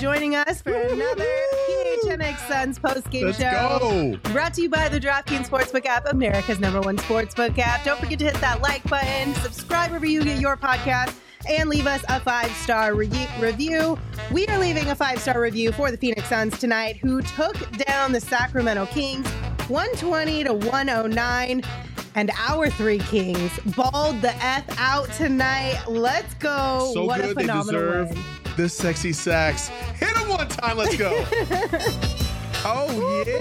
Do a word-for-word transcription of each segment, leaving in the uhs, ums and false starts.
joining us for another P H N X Suns post-game Let's show. go. Brought to you by the DraftKings Sportsbook app, America's number one sportsbook app. Don't forget to hit that like button, subscribe wherever you get your podcast, and leave us a five-star re- review. We are leaving a five-star review for the Phoenix Suns tonight, who took down the Sacramento Kings one twenty to one oh nine. And our three Kings balled the F out tonight. Let's go. So what good. a phenomenal They deserve win. this sexy sax. Hit him one time. Let's go. Oh,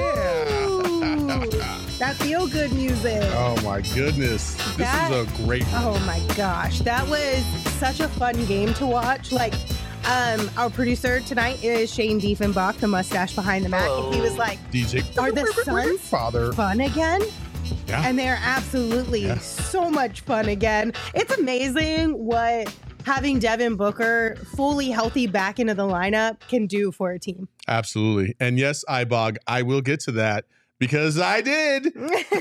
yeah. That feel-good music. Oh, my goodness. This That- is a great one. Oh my gosh, that was such a fun game to watch. Like, um, our producer tonight is Shane Diefenbach, the mustache behind the mat. And he was like, D J. "Are the Suns Father. fun again?" Yeah. And they're absolutely Yeah. so much fun again. It's amazing what having Devin Booker fully healthy back into the lineup can do for a team. Absolutely. And yes, iBog, I will get to that because I did.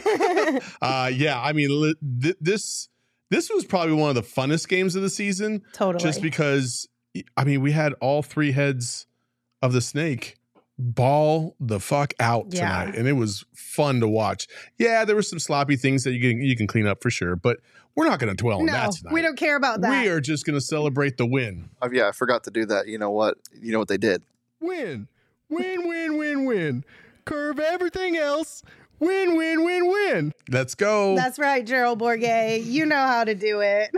uh, yeah, I mean, li- th- this this was probably one of the funnest games of the season. Totally. Just because, I mean, we had all three heads of the snake ball the fuck out Yeah. tonight, and it was fun to watch. Yeah, there were some sloppy things that you can you can clean up for sure, but we're not going to dwell on No, that tonight. we don't care about that. We are just going to celebrate the win. Oh, yeah, I forgot to do that. You know what? You know what they did? Win, win, win, win, win. Curve everything else. Win, win, win, win. Let's go. That's right, Gerald Bourguet. You know how to do it.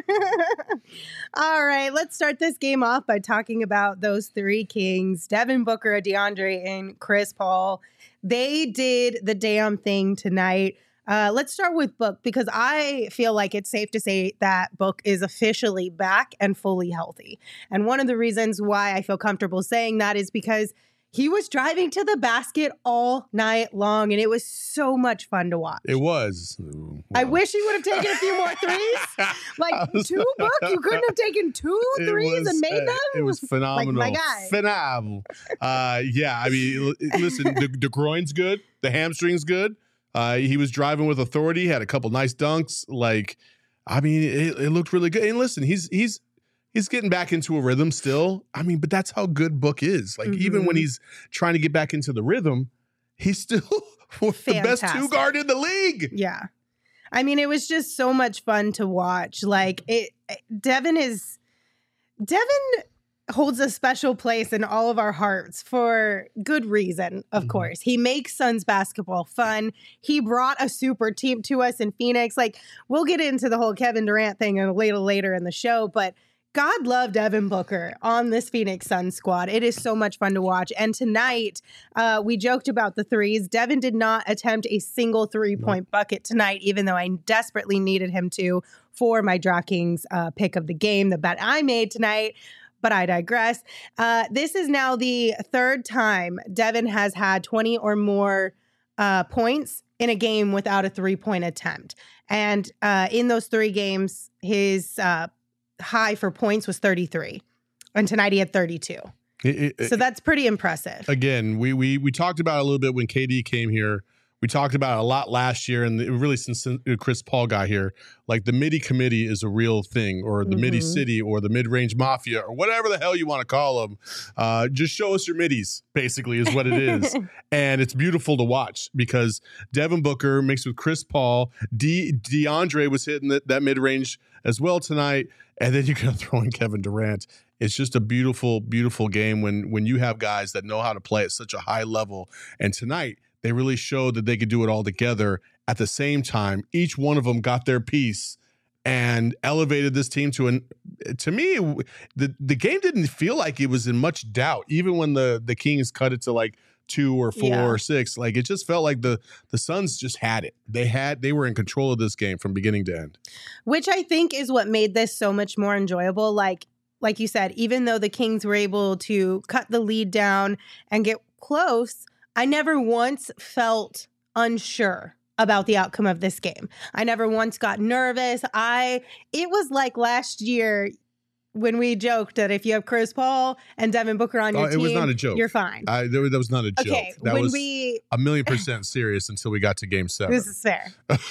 All right, let's start this game off by talking about those three Kings, Devin Booker, DeAndre, and Chris Paul. They did the damn thing tonight. Uh, let's start with Book, because I feel like it's safe to say that Book is officially back and fully healthy. And one of the reasons why I feel comfortable saying that is because he was driving to the basket all night long, and it was so much fun to watch. It was. I wish he would have taken a few more threes. Like two, Book? You couldn't have taken two It threes was, and made uh, them? It was phenomenal. Like, my guy. Phenomenal. Uh, yeah, I mean, l- listen, the, the groin's good. The hamstring's good. Uh, he was driving with authority, had a couple nice dunks. Like, I mean, it, it looked really good. And listen, he's he's he's getting back into a rhythm still. I mean, but that's how good Book is. Like, Mhm. even when he's trying to get back into the rhythm, he's still the best two Fantastic. guard in the league. Yeah. I mean, it was just so much fun to watch. Like, it, Devin is, Devin holds a special place in all of our hearts for good reason, of Mhm. course. He makes Suns basketball fun. He brought a super team to us in Phoenix. Like, we'll get into the whole Kevin Durant thing a little later in the show, but God love Devin Booker on this Phoenix Suns squad. It is so much fun to watch. And tonight, uh, we joked about the threes. Devin did not attempt a single three-point bucket tonight, even though I desperately needed him to for my DraftKings uh, pick of the game, the bet I made tonight. But I digress. Uh, this is now the third time Devin has had twenty or more uh, points in a game without a three-point attempt. And uh, in those three games, his uh, high for points was thirty-three. And tonight he had thirty-two. It- it- So that's pretty impressive. Again, we we we talked about it a little bit when K D came here. We talked about it a lot last year, and really since Chris Paul got here, like the MIDI committee is a real thing, or the MIDI Mhm. city, or the mid-range mafia, or whatever the hell you want to call them. Uh, just show us your middies, basically, is what it is. And it's beautiful to watch because Devin Booker mixed with Chris Paul, De- DeAndre was hitting that, that mid-range as well tonight, and then you're going to throw in Kevin Durant. It's just a beautiful, beautiful game when when you have guys that know how to play at such a high level. And tonight, they really showed that they could do it all together at the same time. Each one of them got their piece and elevated this team to an. To me, the the game didn't feel like it was in much doubt, even when the the Kings cut it to like two or four Yeah. or six. Like it just felt like the the Suns just had it. They had they were in control of this game from beginning to end. Which I think is what made this so much more enjoyable. Like, like you said, even though the Kings were able to cut the lead down and get close, I never once felt unsure about the outcome of this game. I never once got nervous. I it was like last year when we joked that if you have Chris Paul and Devin Booker on your Oh, it team, was not a joke. you're fine. I, there, that was not a joke. Okay, That when was we a million percent serious until we got to game seven. this is fair.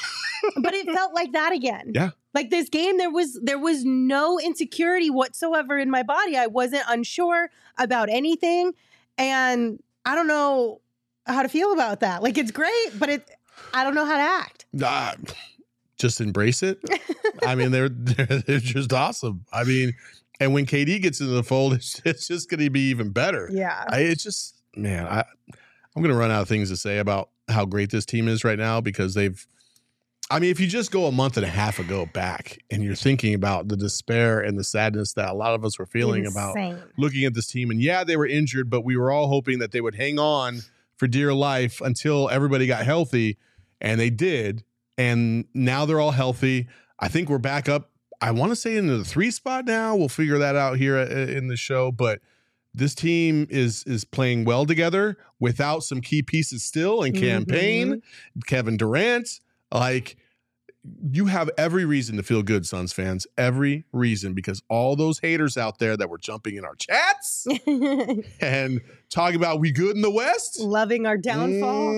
But it felt like that again. Yeah. Like this game, there was there was no insecurity whatsoever in my body. I wasn't unsure about anything. And I don't know how to feel about that. Like, it's great, but it I don't know how to act. Uh, just embrace it. I mean, they're, they're they're just awesome. I mean, and when K D gets into the fold, it's, it's just going to be even better. Yeah. I, it's just, man, I, I'm going to run out of things to say about how great this team is right now because they've, I mean, if you just go a month and a half ago back and you're thinking about the despair and the sadness that a lot of us were feeling Insane. about looking at this team, and yeah, they were injured, but we were all hoping that they would hang on for dear life until everybody got healthy, and they did. And now they're all healthy. I think we're back up, I want to say, into the three spot now. We'll figure that out here in the show, but this team is is playing well together without some key pieces still in campaign, mm-hmm. Kevin Durant. Like, you have every reason to feel good, Suns fans. Every reason, because all those haters out there that were jumping in our chats and talking about we good in the West, loving our downfall.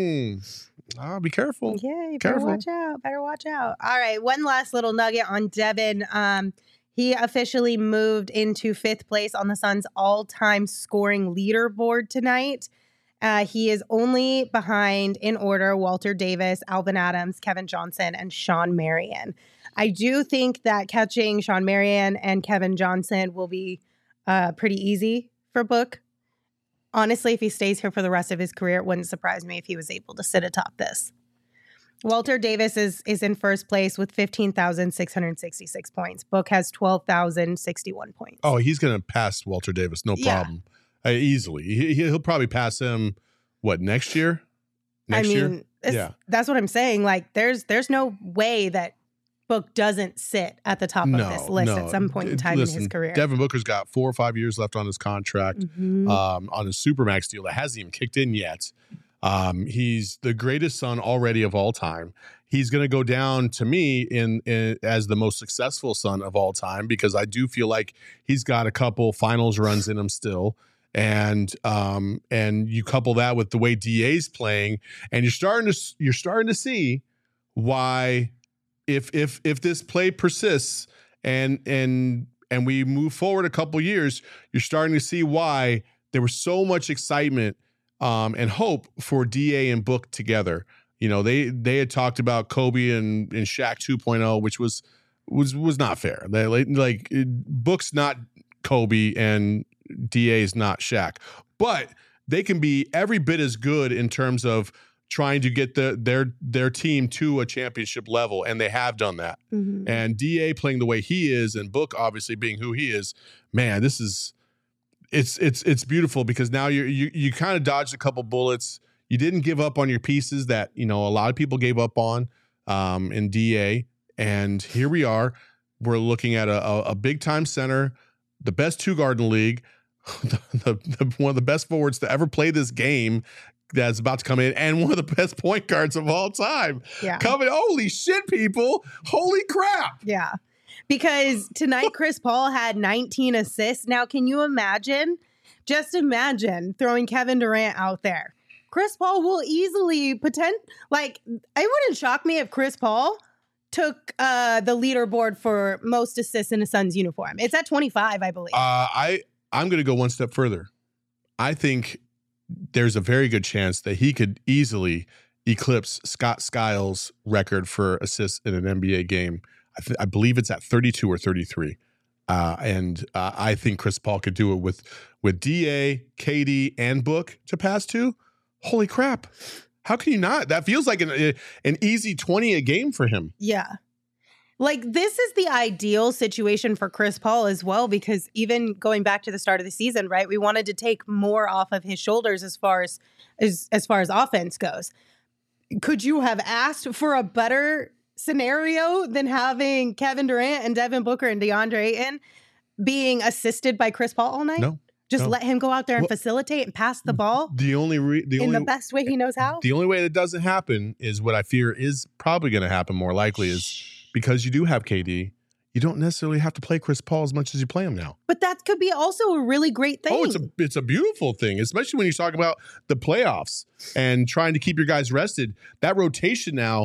Mm. Oh, be careful. Yeah, you careful. better watch out. Better watch out. All right, one last little nugget on Devin. Um, he officially moved into fifth place on the Suns' all-time scoring leaderboard tonight. Uh, he is only behind, in order, Walter Davis, Alvin Adams, Kevin Johnson, and Sean Marion. I do think that catching Sean Marion and Kevin Johnson will be uh, pretty easy for Book. Honestly, if he stays here for the rest of his career, it wouldn't surprise me if he was able to sit atop this. Walter Davis is is in first place with fifteen thousand six hundred sixty-six points. Book has twelve thousand sixty-one points. Oh, he's going to pass Walter Davis, no Yeah. problem. Uh, easily. He, he'll probably pass him, what, next year? Next I mean, year? it's- Yeah. that's what I'm saying. Like, there's there's no way that Book doesn't sit at the top No, of this list no. at some point in time Listen, in his career. Devin Booker's got four or five years left on his contract, Mhm. um, on his Supermax deal that hasn't even kicked in yet. Um, he's the greatest son already of all time. He's going to go down to me in, in as the most successful son of all time because I do feel like he's got a couple finals runs in him still. And um, and you couple that with the way D A's playing, and you're starting to you're starting to see why, if if if this play persists and and and we move forward a couple years, you're starting to see why there was so much excitement um, and hope for D A and Book together. You know, they they had talked about Kobe and, and Shaq two point oh, which was was was not fair. They, like, like Book's not Kobe and D A is not Shaq, but they can be every bit as good in terms of trying to get the their their team to a championship level, and they have done that. Mhm. And D A playing the way he is, and Book obviously being who he is, man, this is it's it's it's beautiful because now you're, you you kind of dodged a couple bullets. You didn't give up on your pieces that you know a lot of people gave up on um, in D A, and here we are. We're looking at a, a, a big time center, the best two guard in the league. The, the, the, one of the best forwards to ever play this game that's about to come in, and one of the best point guards of all time. Yeah. Coming, holy shit, people. Holy crap. Yeah. Because tonight Chris Paul had nineteen assists. Now, can you imagine? Just imagine throwing Kevin Durant out there. Chris Paul will easily pretend like it wouldn't shock me if Chris Paul took uh, the leaderboard for most assists in a Suns uniform. It's at twenty-five, I believe. Uh, I, I'm going to go one step further. I think there's a very good chance that he could easily eclipse Scott Skiles' record for assists in an N B A game. I, th- I believe it's at thirty-two or thirty-three. Uh, and uh, I think Chris Paul could do it with, with D A, K D, and Book to pass to. Holy crap. How can you not? That feels like an, an easy twenty a game for him. Yeah. Like, this is the ideal situation for Chris Paul as well, because even going back to the start of the season, right, we wanted to take more off of his shoulders as far as as, as far as offense goes. Could you have asked for a better scenario than having Kevin Durant and Devin Booker and DeAndre Ayton being assisted by Chris Paul all night? No. Just no. let him go out there and Well, faciltate and pass the ball The only re- the in only the best way he knows how? The only way that doesn't happen is what I fear is probably going to happen more likely is because you do have K D, you don't necessarily have to play Chris Paul as much as you play him now. But that could be also a really great thing. Oh, it's a it's a beautiful thing, especially when you talk about the playoffs and trying to keep your guys rested. That rotation now,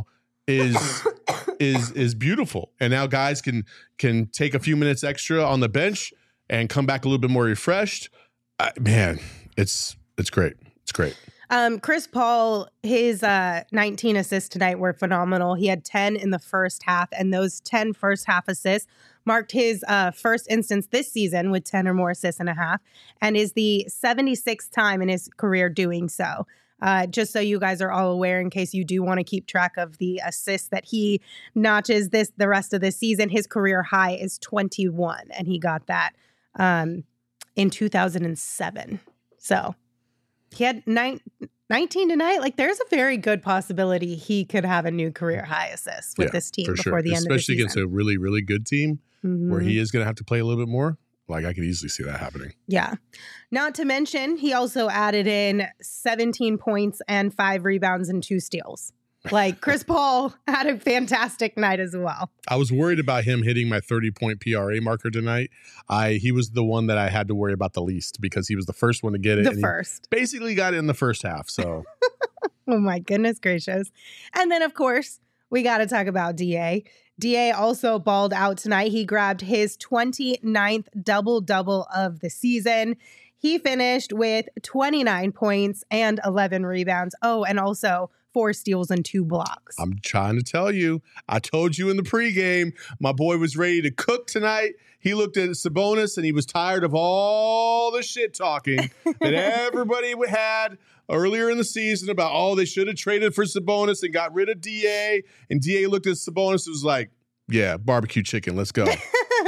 is is is beautiful. And now guys can can take a few minutes extra on the bench and come back a little bit more refreshed. Uh, man, it's it's great. It's great. Um, Chris Paul, his uh, nineteen assists tonight were phenomenal. He had ten in the first half, and those ten first half assists marked his uh, first instance this season with ten or more assists and a half, and is the seventy-sixth time in his career doing so. Uh, just so you guys are all aware, in case you do want to keep track of the assists that he notches this the rest of this season, his career high is twenty-one, and he got that um, in two thousand seven. So he had nine, nineteen tonight. Like, there's a very good possibility he could have a new career high assist with Yeah, this team for before sure. the end of the Especially season. against a really, really good team Mhm. where he is going to have to play a little bit more. Like, I could easily see that happening. Yeah. Not to mention, he also added in seventeen points and five rebounds and two steals. Like, Chris Paul had a fantastic night as well. I was worried about him hitting my thirty-point P R A marker tonight. I He was the one that I had to worry about the least because he was the first one to get it. The and he first. basically got it in the first half. So, Oh my goodness gracious. And then, of course, we got to talk about D A. D A also balled out tonight. He grabbed his twenty-ninth double-double of the season. He finished with twenty-nine points and eleven rebounds. Oh, and also four steals and two blocks. I'm trying to tell you, I told you in the pregame, my boy was ready to cook tonight. He looked at Sabonis and he was tired of all the shit talking that everybody had earlier in the season about, oh, they should have traded for Sabonis and got rid of D A. And D A looked at Sabonis and was like, yeah, barbecue chicken, let's go.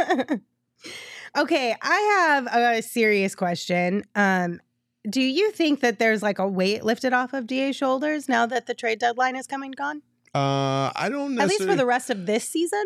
Okay, I have a serious question. Um, do you think that there's like a weight lifted off of D A's shoulders now that the trade deadline is coming and gone? Uh, I don't necessarily. At least for the rest of this season?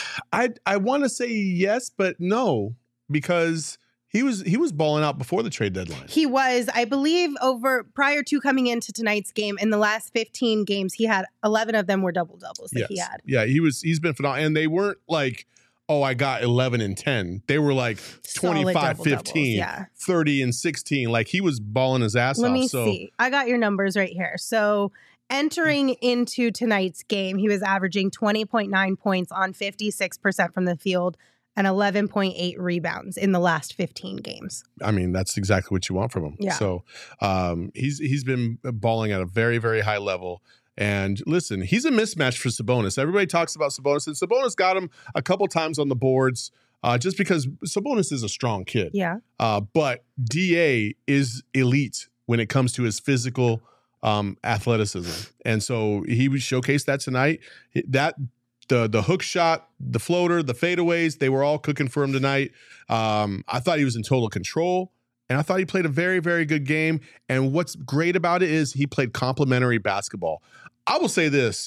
I I want to say yes, but no, because he was he was balling out before the trade deadline. He was, I believe, over prior to coming into tonight's game, in the last fifteen games, he had eleven of them were double doubles that yes. he had. Yeah, he was he's been phenomenal. And they weren't like, oh, I got eleven and ten. They were like Solid twenty-five, double-doubles, fifteen, yeah. thirty and sixteen. Like, he was balling his ass Let off. me so see. I got your numbers right here. So entering into tonight's game, he was averaging twenty point nine points on fifty-six percent from the field and eleven point eight rebounds in the last fifteen games. I mean, that's exactly what you want from him. Yeah. So um, he's he's been balling at a very, very high level. And listen, he's a mismatch for Sabonis. Everybody talks about Sabonis, and Sabonis got him a couple times on the boards uh, just because Sabonis is a strong kid. Yeah. Uh, but D A is elite when it comes to his physical um, athleticism. And so he showcased that tonight. That the the hook shot, the floater, the fadeaways, they were all cooking for him tonight. Um, I thought he was in total control. And I thought he played a very, very good game. And what's great about it is he played complementary basketball. I will say this.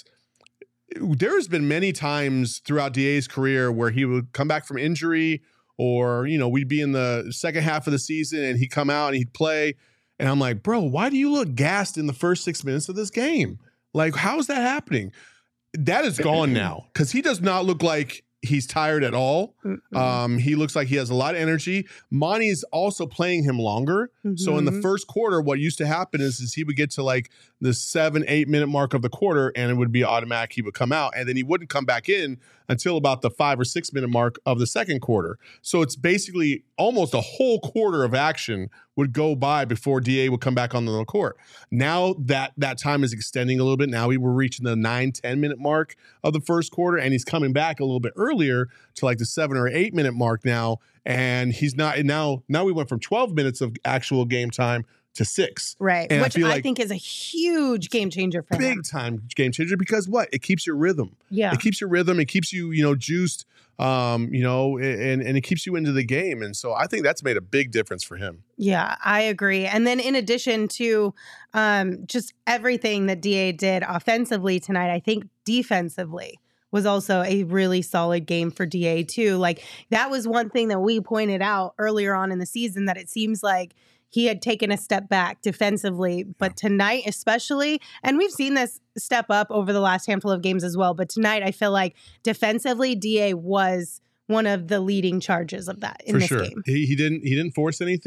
There's been many times throughout D A's career where he would come back from injury, or, you know, we'd be in the second half of the season and he'd come out and he'd play. And I'm like, bro, why do you look gassed in the first six minutes of this game? Like, how is that happening? That is gone now, because he does not look like he's tired at all. Mm-mm. Um, he looks like he has a lot of energy. Monty's also playing him longer. So in the Mhm. first quarter, what used to happen is, is he would get to like the seven, eight minute mark of the quarter, and it would be automatic. He would come out, and then he wouldn't come back in until about the five or six minute mark of the second quarter. So it's basically almost a whole quarter of action would go by before D A would come back on the court. Now that that time is extending a little bit. Now we were reaching the nine, ten minute mark of the first quarter, and he's coming back a little bit earlier to like the seven or eight minute mark now. And he's not, and now, now we went from twelve minutes of actual game time to six. Right. And I Which I, feel like think is a huge game changer for him. Big time game changer, because what? It keeps your rhythm. Yeah. It keeps your rhythm. It keeps you, you know, juiced, um, you know, and, and it keeps you into the game. And so I think that's made a big difference for him. Yeah, I agree. And then in addition to um, just everything that D A did offensively tonight, I think defensively was also a really solid game for D A too. Like, that was one thing that we pointed out earlier on in the season, that it seems like he had taken a step back defensively, but tonight especially, and we've seen this step up over the last handful of games as well, but tonight I feel like defensively D A was one of the leading charges of that in For this sure. game. He, he didn't he didn't force anything,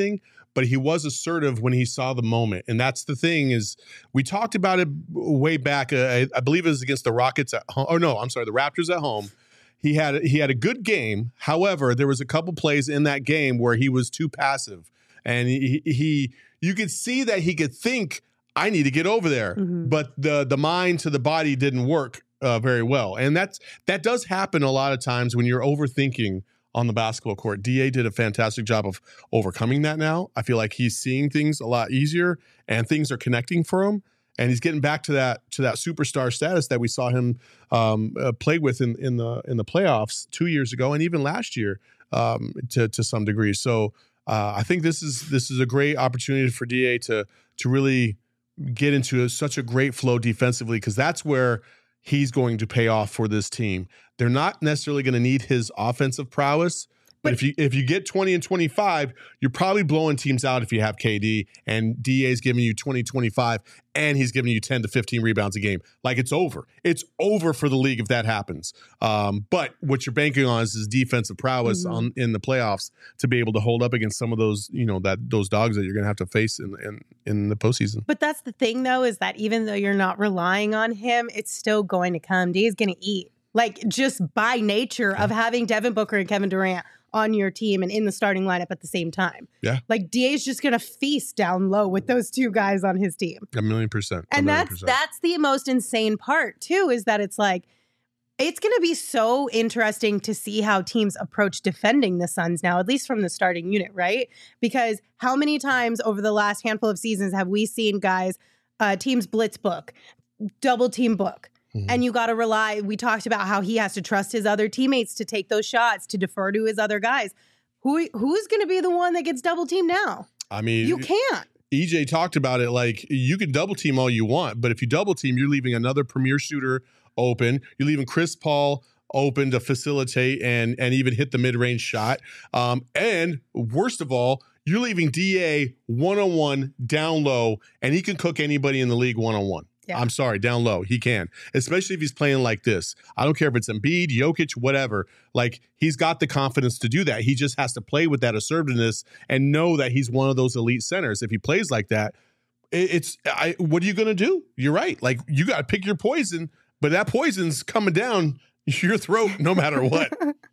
but he was assertive when he saw the moment. And that's the thing is we talked about it way back. Uh, I, I believe it was against the Rockets at home. Oh no, I'm sorry, the Raptors at home. He had he had a good game. However, there was a couple plays in that game where he was too passive, and he, he you could see that he could think, I need to get over there, mm-hmm. but the the mind to the body didn't work uh, very well, and that's that does happen a lot of times when you're overthinking on the basketball court. D A did a fantastic job of overcoming that. Now I feel like he's seeing things a lot easier, and things are connecting for him. And he's getting back to that to that superstar status that we saw him um, uh, play with in, in the in the playoffs two years ago, and even last year um, to to some degree. So uh, I think this is this is a great opportunity for D A to to really get into a, such a great flow defensively, because that's where he's going to pay off for this team. They're not necessarily going to need his offensive prowess. But if you if you get twenty and twenty-five, you're probably blowing teams out if you have K D, and D A's giving you twenty, twenty-five, and he's giving you ten to fifteen rebounds a game. Like, it's over. It's over for the league if that happens. Um, but what you're banking on is his defensive prowess mm-hmm. on in the playoffs to be able to hold up against some of those, you know, that those dogs that you're going to have to face in, in in the postseason. But that's the thing, though, is that even though you're not relying on him, it's still going to come. D A's going to eat. Like, just by nature of having Devin Booker and Kevin Durant on your team and in the starting lineup at the same time. Yeah. Like, D A's just going to feast down low with those two guys on his team. A million percent. A and million that's percent. that's the most insane part, too, is that it's like, it's going to be so interesting to see how teams approach defending the Suns now, at least from the starting unit, right? Because how many times over the last handful of seasons have we seen guys, uh, teams blitz book, double team book? Mm-hmm. And you got to rely, we talked about how he has to trust his other teammates to take those shots, to defer to his other guys. Who Who's going to be the one that gets double teamed now? I mean, you can't. E J talked about it, like, you can double team all you want, but if you double team, you're leaving another premier shooter open. You're leaving Chris Paul open to facilitate and, and even hit the mid-range shot. Um, and worst of all, you're leaving D A one-on-one down low, and he can cook anybody in the league one-on-one. Yeah. I'm sorry, down low. He can, especially if he's playing like this. I don't care if it's Embiid, Jokic, whatever. Like, he's got the confidence to do that. He just has to play with that assertiveness and know that he's one of those elite centers. If he plays like that, it's I. What are you going to do? You're right. Like, you got to pick your poison, but that poison's coming down your throat no matter what.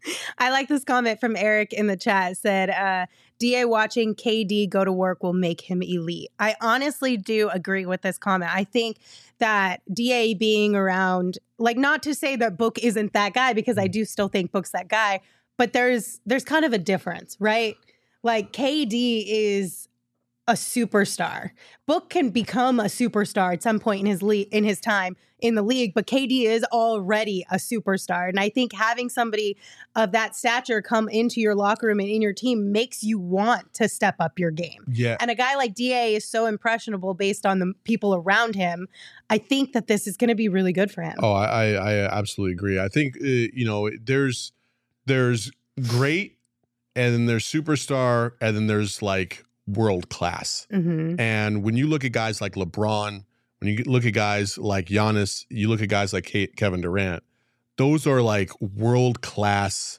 I like this comment from Eric in the chat. It said, uh, D A watching K D go to work will make him elite. I honestly do agree with this comment. I think that D A being around, like, not to say that Book isn't that guy, because I do still think Book's that guy, but there's there's kind of a difference, right? Like, K D is a superstar. Book can become a superstar at some point in his le- in his time in the league, but K D is already a superstar. And I think having somebody of that stature come into your locker room and in your team makes you want to step up your game. Yeah. And a guy like D A is so impressionable based on the people around him. I think that this is going to be really good for him. Oh, I, I absolutely agree. I think, uh, you know, there's there's great, and then there's superstar, and then there's like world class. Mm-hmm. And when you look at guys like LeBron, when you look at guys like Giannis, you look at guys like Kevin Durant, those are like world class,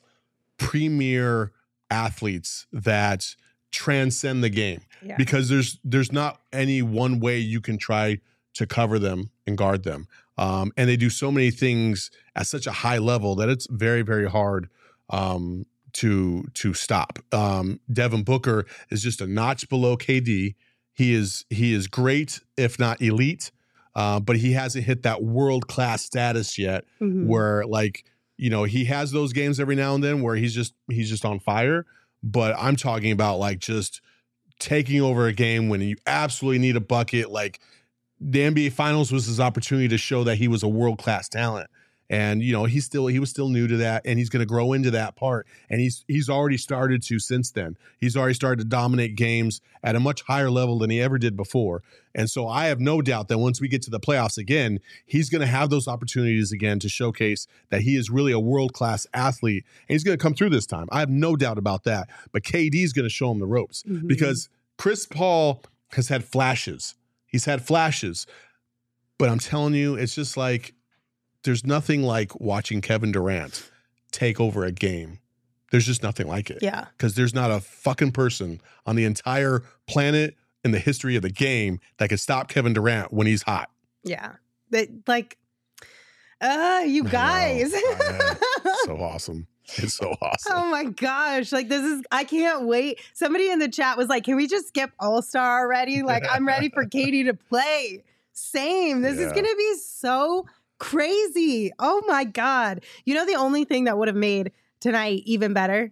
premier athletes that transcend the game. Yeah. Because there's there's not any one way you can try to cover them and guard them. Um, and they do so many things at such a high level that it's very, very hard um, to to stop. Um, Devin Booker is just a notch below K D. He is he is great, if not elite, uh, but he hasn't hit that world class status yet. Mm-hmm. Where, like, you know, he has those games every now and then where he's just he's just on fire. But I'm talking about, like, just taking over a game when you absolutely need a bucket. Like, the N B A Finals was his opportunity to show that he was a world class talent. And, you know, he's still he was still new to that, and he's going to grow into that part. And he's he's already started to since then. He's already started to dominate games at a much higher level than he ever did before. And so I have no doubt that once we get to the playoffs again, he's going to have those opportunities again to showcase that he is really a world-class athlete. And he's going to come through this time. I have no doubt about that. But K D is going to show him the ropes, mm-hmm. because Chris Paul has had flashes. He's had flashes. But I'm telling you, it's just like, there's nothing like watching Kevin Durant take over a game there's just nothing like it. Yeah. Because there's not a fucking person on the entire planet in the history of the game that can stop Kevin Durant when he's hot. Yeah. That, like, uh, you guys. So awesome. It's so awesome. Oh my gosh. Like, this is, I can't wait. Somebody in the chat was like, can we just skip All-Star already? Like, I'm ready for Katie to play. Same. This Yeah. is going to be so crazy. Oh my God. You know, the only thing that would have made tonight even better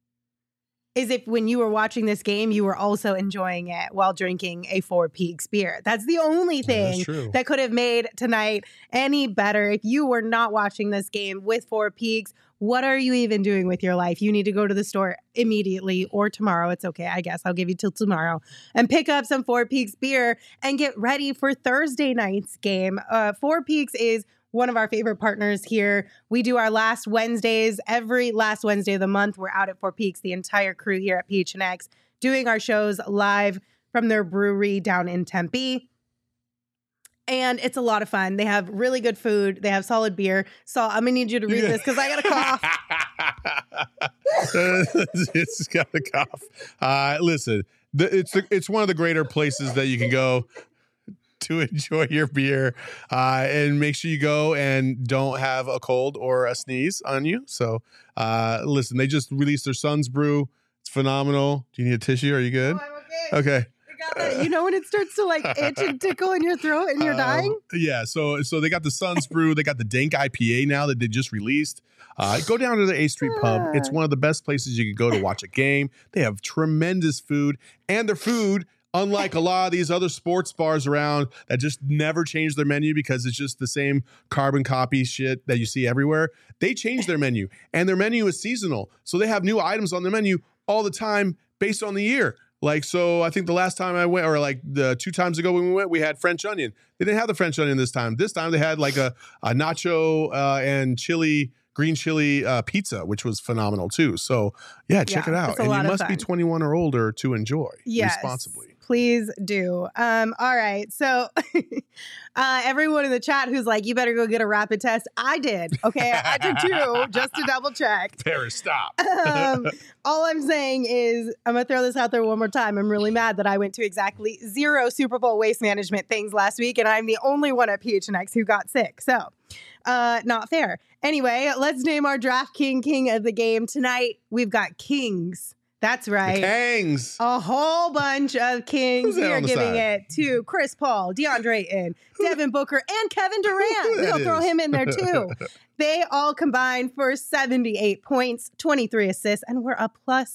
is if when you were watching this game, you were also enjoying it while drinking a Four Peaks beer. That's the only thing That's true. that could have made tonight any better. If you were not watching this game with Four Peaks, what are you even doing with your life? You need to go to the store immediately or tomorrow. It's okay, I guess. I'll give you till tomorrow. And pick up some Four Peaks beer and get ready for Thursday night's game. Uh, Four Peaks is one of our favorite partners here. We do our last Wednesdays. Every last Wednesday of the month, we're out at Four Peaks, the entire crew here at P H N X, doing our shows live from their brewery down in Tempe. And it's a lot of fun. They have really good food. They have solid beer. So I'm going to need you to read this because I got a cough. It's got a cough. Uh, listen, the, it's the, it's one of the greater places that you can go to enjoy your beer, uh, and make sure you go and don't have a cold or a sneeze on you. So, uh, listen, they just released their Sun's Brew. It's phenomenal. Do you need a tissue? Are you good? Oh, I'm okay. Okay. I got that. You know when it starts to like itch and tickle in your throat and you're Uh, dying? Yeah. So, so they got the Sun's Brew. They got the Dank I P A now that they just released. Uh, go down to the A Street Pub. It's one of the best places you could go to watch a game. They have tremendous food, and their food, unlike a lot of these other sports bars around that just never change their menu because it's just the same carbon copy shit that you see everywhere, they change their menu, and their menu is seasonal. So they have new items on their menu all the time based on the year. Like, so I think the last time I went, or like the two times ago when we went, we had French onion. They didn't have the French onion this time. This time they had like a, a nacho uh, and chili, green chili uh, pizza, which was phenomenal too. So yeah, check Yeah, it out. it's a And lot you of must be fun. twenty-one or older to enjoy Yes, responsibly. please do. Um, all right. So uh, everyone in the chat who's like, you better go get a rapid test. I did. Okay. I did too, just to double check. Paris, stop. Um, all I'm saying is, I'm going to throw this out there one more time. I'm really mad that I went to exactly zero Super Bowl waste management things last week, and I'm the only one at P H N X who got sick. So, uh, not fair. Anyway, let's name our Draft King King of the game. Tonight, we've got Kings. That's right. The Kangs. A whole bunch of Kings. Who's that We are on the giving side? it to Chris Paul, DeAndre Ayton, Devin Booker, and Kevin Durant. that We'll throw is. him in there too. They all combined for seventy-eight points, twenty-three assists, and we're a plus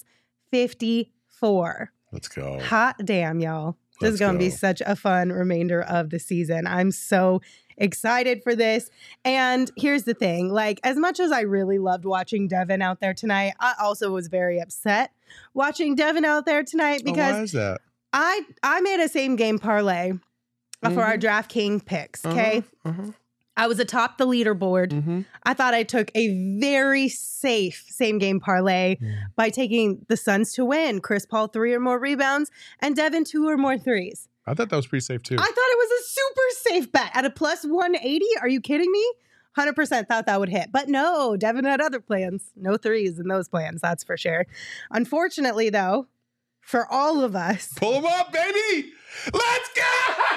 fifty-four. Let's go. Hot damn, y'all. This is Let's going to be go. such a fun remainder of the season. I'm so excited for this. And here's the thing, like, as much as I really loved watching Devin out there tonight, I also was very upset watching Devin out there tonight Oh, because why is that? I I made a same game parlay for our DraftKings picks, okay? Uh-huh, uh-huh. I was atop the leaderboard. Mm-hmm. I thought I took a very safe same game parlay Yeah. by taking the Suns to win, Chris Paul three or more rebounds, and Devin two or more threes. I thought that was pretty safe too. I thought it was a super safe bet at a plus one eighty. Are you kidding me? one hundred percent thought that would hit. But no, Devin had other plans. No threes in those plans, that's for sure. Unfortunately, though, for all of us, Pull them up, baby. Let's go.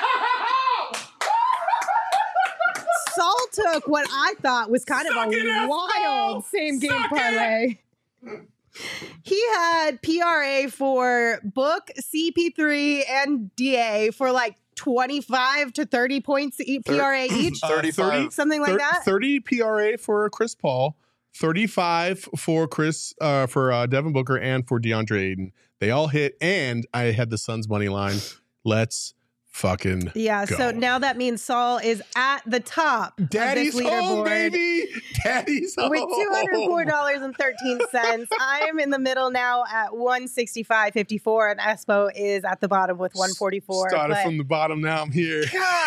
Saul took what I thought was kind Suck of it, a Espo! wild same game Suck it! parlay. He had P R A for Book, C P three, and D A for like twenty-five to thirty points e- P R A each. Uh, thirty-five. Something like thir- that. thirty P R A for Chris Paul, thirty-five for Chris uh, for uh, Devin Booker, and for DeAndre Ayton. They all hit, and I had the Suns money line. Let's fucking Yeah, go. so now that means Saul is at the top Daddy's of this home, leaderboard baby. Daddy's home. with two hundred four dollars and thirteen cents. I am in the middle now at one sixty-five fifty-four, and Espo is at the bottom with one forty-four. Started but from the bottom. Now I'm here. God,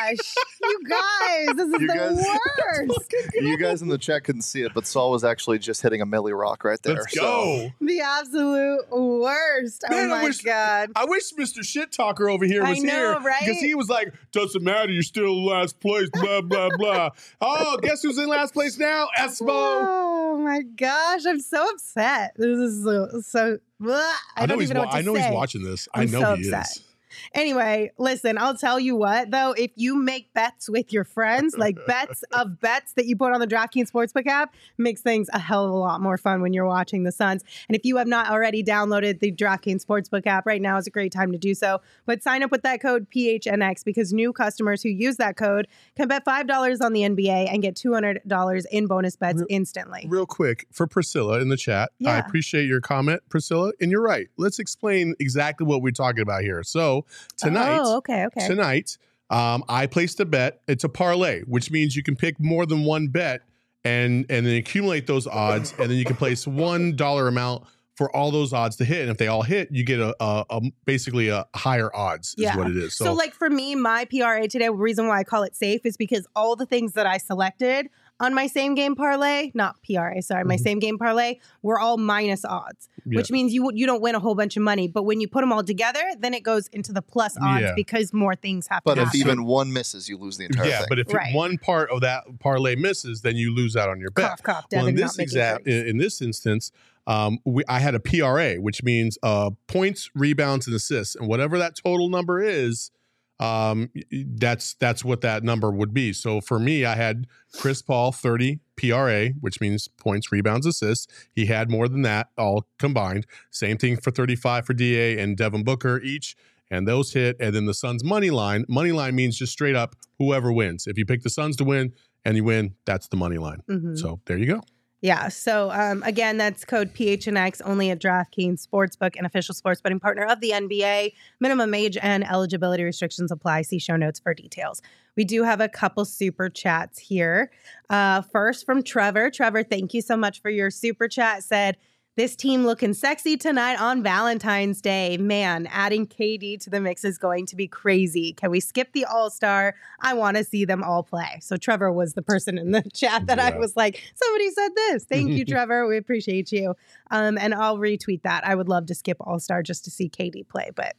gosh. You guys, this is You the guys- worst. You guys in the chat couldn't see it, but Saul was actually just hitting a Millie Rock right there. Let's so- go. The absolute worst. Oh Man, I my wish- God. I wish Mister Shit Talker over here I was know, here right? because he was like, "Doesn't matter, you're still in last place." Blah blah blah. Oh, guess who's in last place now? Espo. Oh my gosh, I'm so upset. This is so, so blah. I, I know don't he's. even know wa- what to I know say. he's watching this. I I'm know so he upset. is. Anyway, listen, I'll tell you what, though, if you make bets with your friends, like bets of bets that you put on the DraftKings Sportsbook app, makes things a hell of a lot more fun when you're watching the Suns. And if you have not already downloaded the DraftKings Sportsbook app, right now is a great time to do so. But sign up with that code P H N X because new customers who use that code can bet five dollars on the N B A and get two hundred dollars in bonus bets Real- instantly. Real quick for Priscilla in the chat. I Yeah. appreciate your comment, Priscilla, and you're right. Let's explain exactly what we're talking about here. So tonight. Oh, okay, okay. Tonight, um, I placed a bet. It's a parlay, which means you can pick more than one bet and and then accumulate those odds, and then you can place one dollar amount for all those odds to hit. And if they all hit, you get a, a, a basically a higher odds is Yeah. what it is. So, like for me, my P R A today, the reason why I call it safe is because all the things that I selected on my same game parlay, not P R A, sorry, my Mhm. same game parlay, were all minus odds, Yeah. which means you you don't win a whole bunch of money. But when you put them all together, then it goes into the plus odds Yeah. because more things happen. But if happen. even one misses, you lose the entire yeah, thing. but if Right. one part of that parlay misses, then you lose out on your bet. cough, cough, Well, Devin, in not this making exact in, drinks. in this instance, um, we, I had a P R A, which means uh, points, rebounds, and assists, and whatever that total number is, um, y- that's that's what that number would be. So for me, I had Chris Paul thirty P R A, which means points, rebounds, assists. He had more than that all combined. Same thing for thirty-five for D A and Devin Booker each. And those hit, and then the Suns money line. Money line means just straight up whoever wins. If you pick the Suns to win and you win, that's the money line. Mhm. So there you go. Yeah. So um, again, that's code P H N X only at DraftKings Sportsbook, an official sports betting partner of the N B A. Minimum age and eligibility restrictions apply. See show notes for details. We do have a couple super chats here. Uh, first from Trevor. Trevor, thank you so much for your super chat. Said, this team looking sexy tonight on Valentine's Day. Man, adding K D to the mix is going to be crazy. Can we skip the All-Star? I want to see them all play. So Trevor was the person in the chat that I Yeah. was like, somebody said this. Thank you, Trevor. We appreciate you. Um, and I'll retweet that. I would love to skip All-Star just to see K D play, but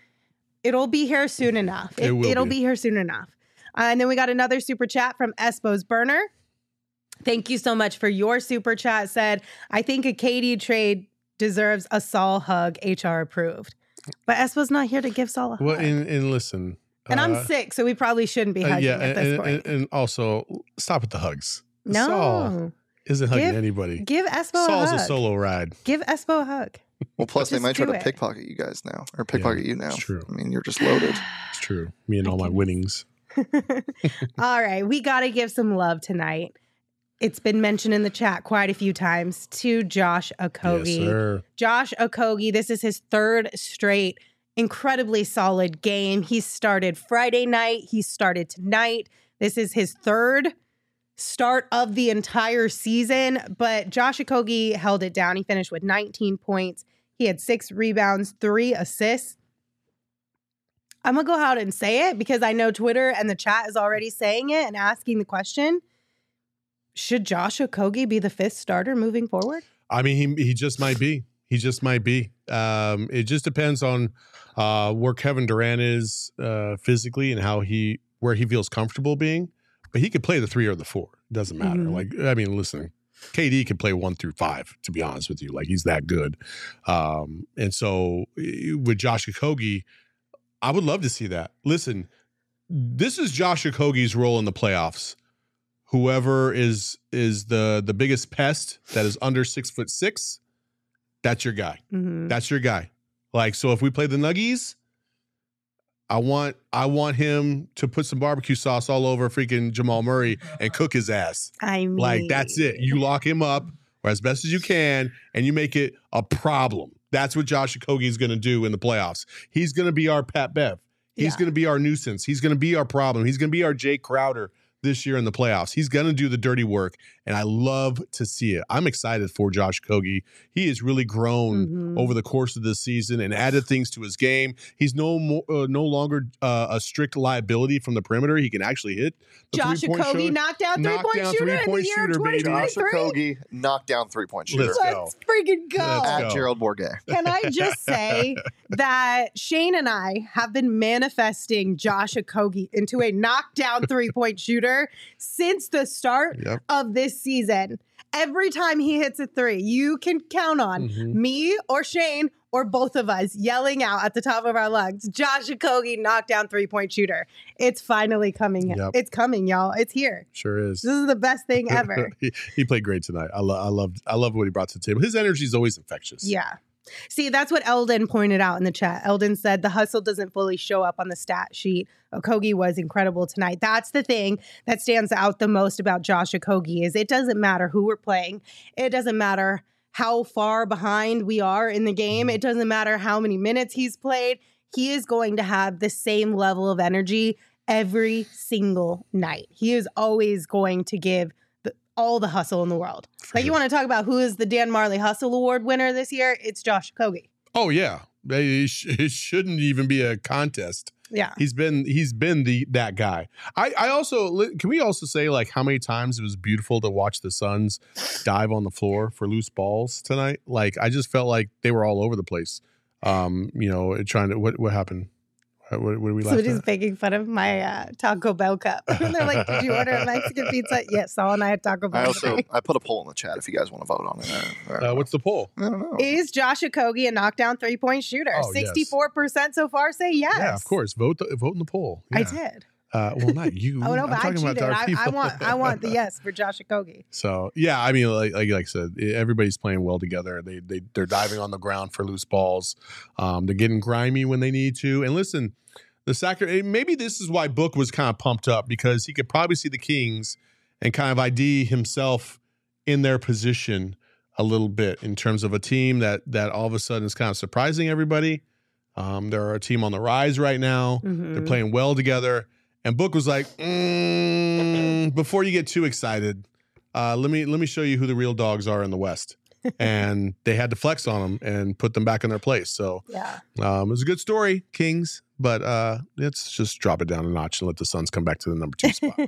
it'll be here soon enough. It will it'll be. be here soon enough. Uh, and then we got another super chat from Espo's Burner. Thank you so much for your super chat. Said, I think a K D trade deserves a Saul hug, H R approved. But Espo's not here to give Saul a hug. Well, and, and listen. and I'm uh, sick, so we probably shouldn't be uh, hugging yeah, at this and, point. and, and also stop with the hugs. no. Saul isn't hugging Give- anybody. Give Espo Saul's a a hug. solo ride. Give Espo a hug. Well, plus they Just might try do to it. pickpocket you guys now, or pickpocket you now. it's true. I mean, you're just loaded. It's true. Me and My all my goodness. winnings. All right, we got to give some love tonight. It's been mentioned in the chat quite a few times to Josh Okogie. Yes, sir. Josh Okogie, this is his third straight incredibly solid game. He started Friday night, he started tonight. This is his third start of the entire season, but Josh Okogie held it down. He finished with nineteen points. He had six rebounds, three assists. I'm going to go out and say it because I know Twitter and the chat is already saying it and asking the question. Should Josh Okogie be the fifth starter moving forward? I mean, he he just might be. He just might be. Um, it just depends on uh, where Kevin Durant is uh, physically and how he where he feels comfortable being. But he could play the three or the four. It doesn't matter. Mhm. Like I mean, listen, K D can play one through five. To be honest with you, like he's that good. Um, and so eh, with Josh Okogie, I would love to see that. Listen, this is Josh Okogie's role in the playoffs. Whoever is is the the biggest pest that is under six foot six, that's your guy. Mm-hmm. That's your guy. Like so, if we play the Nuggies, I want I want him to put some barbecue sauce all over freaking Jamal Murray and cook his ass. I mean, Like that's it. You lock him up or as best as you can, and you make it a problem. That's what Josh Okogie is going to do in the playoffs. He's going to be our Pat Bev. He's Yeah. going to be our nuisance. He's going to be our problem. He's going to be our Jay Crowder this year in the playoffs. He's going to do the dirty work, and I love to see it. I'm excited for Josh Okogie. He has really grown mm-hmm. over the course of this season and added things to his game. He's no more, uh, no longer uh, a strict liability from the perimeter. He can actually hit the Josh Okogie, knockdown three-point shooter in the year of twenty twenty-three. Josh Okogie, knockdown three-point shooter. Let's, Let's go. freaking go. Let's At go. Gerald Bourguet. Can I just say that Shane and I have been manifesting Josh Okogie into a knockdown three-point shooter since the start Yep. of this season. Every time he hits a three, you can count on Mm-hmm. me or Shane or both of us yelling out at the top of our lungs, Josh Okogie, knockdown three-point shooter. It's finally coming. Yep. It's coming, y'all. It's here. Sure is. This is the best thing ever. he, he played great tonight. I, lo- I loved I love what he brought to the table. His energy is always infectious. Yeah. See, that's what Eldon pointed out in the chat. Eldon said the hustle doesn't fully show up on the stat sheet. Okogie was incredible tonight. That's the thing that stands out the most about Josh Okogie is it doesn't matter who we're playing. It doesn't matter how far behind we are in the game. It doesn't matter how many minutes he's played. He is going to have the same level of energy every single night. He is always going to give the, all the hustle in the world. For Like sure. you want to talk about who is the Dan Marley Hustle Award winner this year? It's Josh Okogie. Oh yeah. It, sh- it shouldn't even be a contest. Yeah. He's been he's been the that guy. I I also can we also say like how many times it was beautiful to watch the Suns dive on the floor for loose balls tonight. Like I just felt like they were all over the place. Um, you know, trying to what what happened? What, what, what did we laugh Somebody's at? making fun of my uh, Taco Bell cup. And they're like, did you order a Mexican pizza? Yes, Saul and I had Taco Bell. I also today. I put a poll in the chat if you guys want to vote on it. I, I, Uh, what's the poll? I don't know. Is Josh Okogie a knockdown three-point shooter? Oh, yes. sixty-four percent so far say yes. Yeah, of course. Vote the, vote in the poll. I Yeah. did. Uh, well, not you. Oh, no, I'm but I talking cheated. about our I, people. I want I want the yes for Josh Okogie. So yeah, I mean, like, like like I said, everybody's playing well together. They they they're diving on the ground for loose balls. Um, they're getting grimy when they need to. And listen, the Sacramento. Maybe this is why Book was kind of pumped up because he could probably see the Kings and kind of I D himself in their position a little bit in terms of a team that that all of a sudden is kind of surprising everybody. Um, they're a team on the rise right now. Mhm. They're playing well together. And Book was like, mm, before you get too excited, uh, let me let me show you who the real dogs are in the West. And they had to flex on them and put them back in their place. So Yeah. um, it was a good story, Kings. But uh, let's just drop it down a notch and let the Suns come back to the number two spot.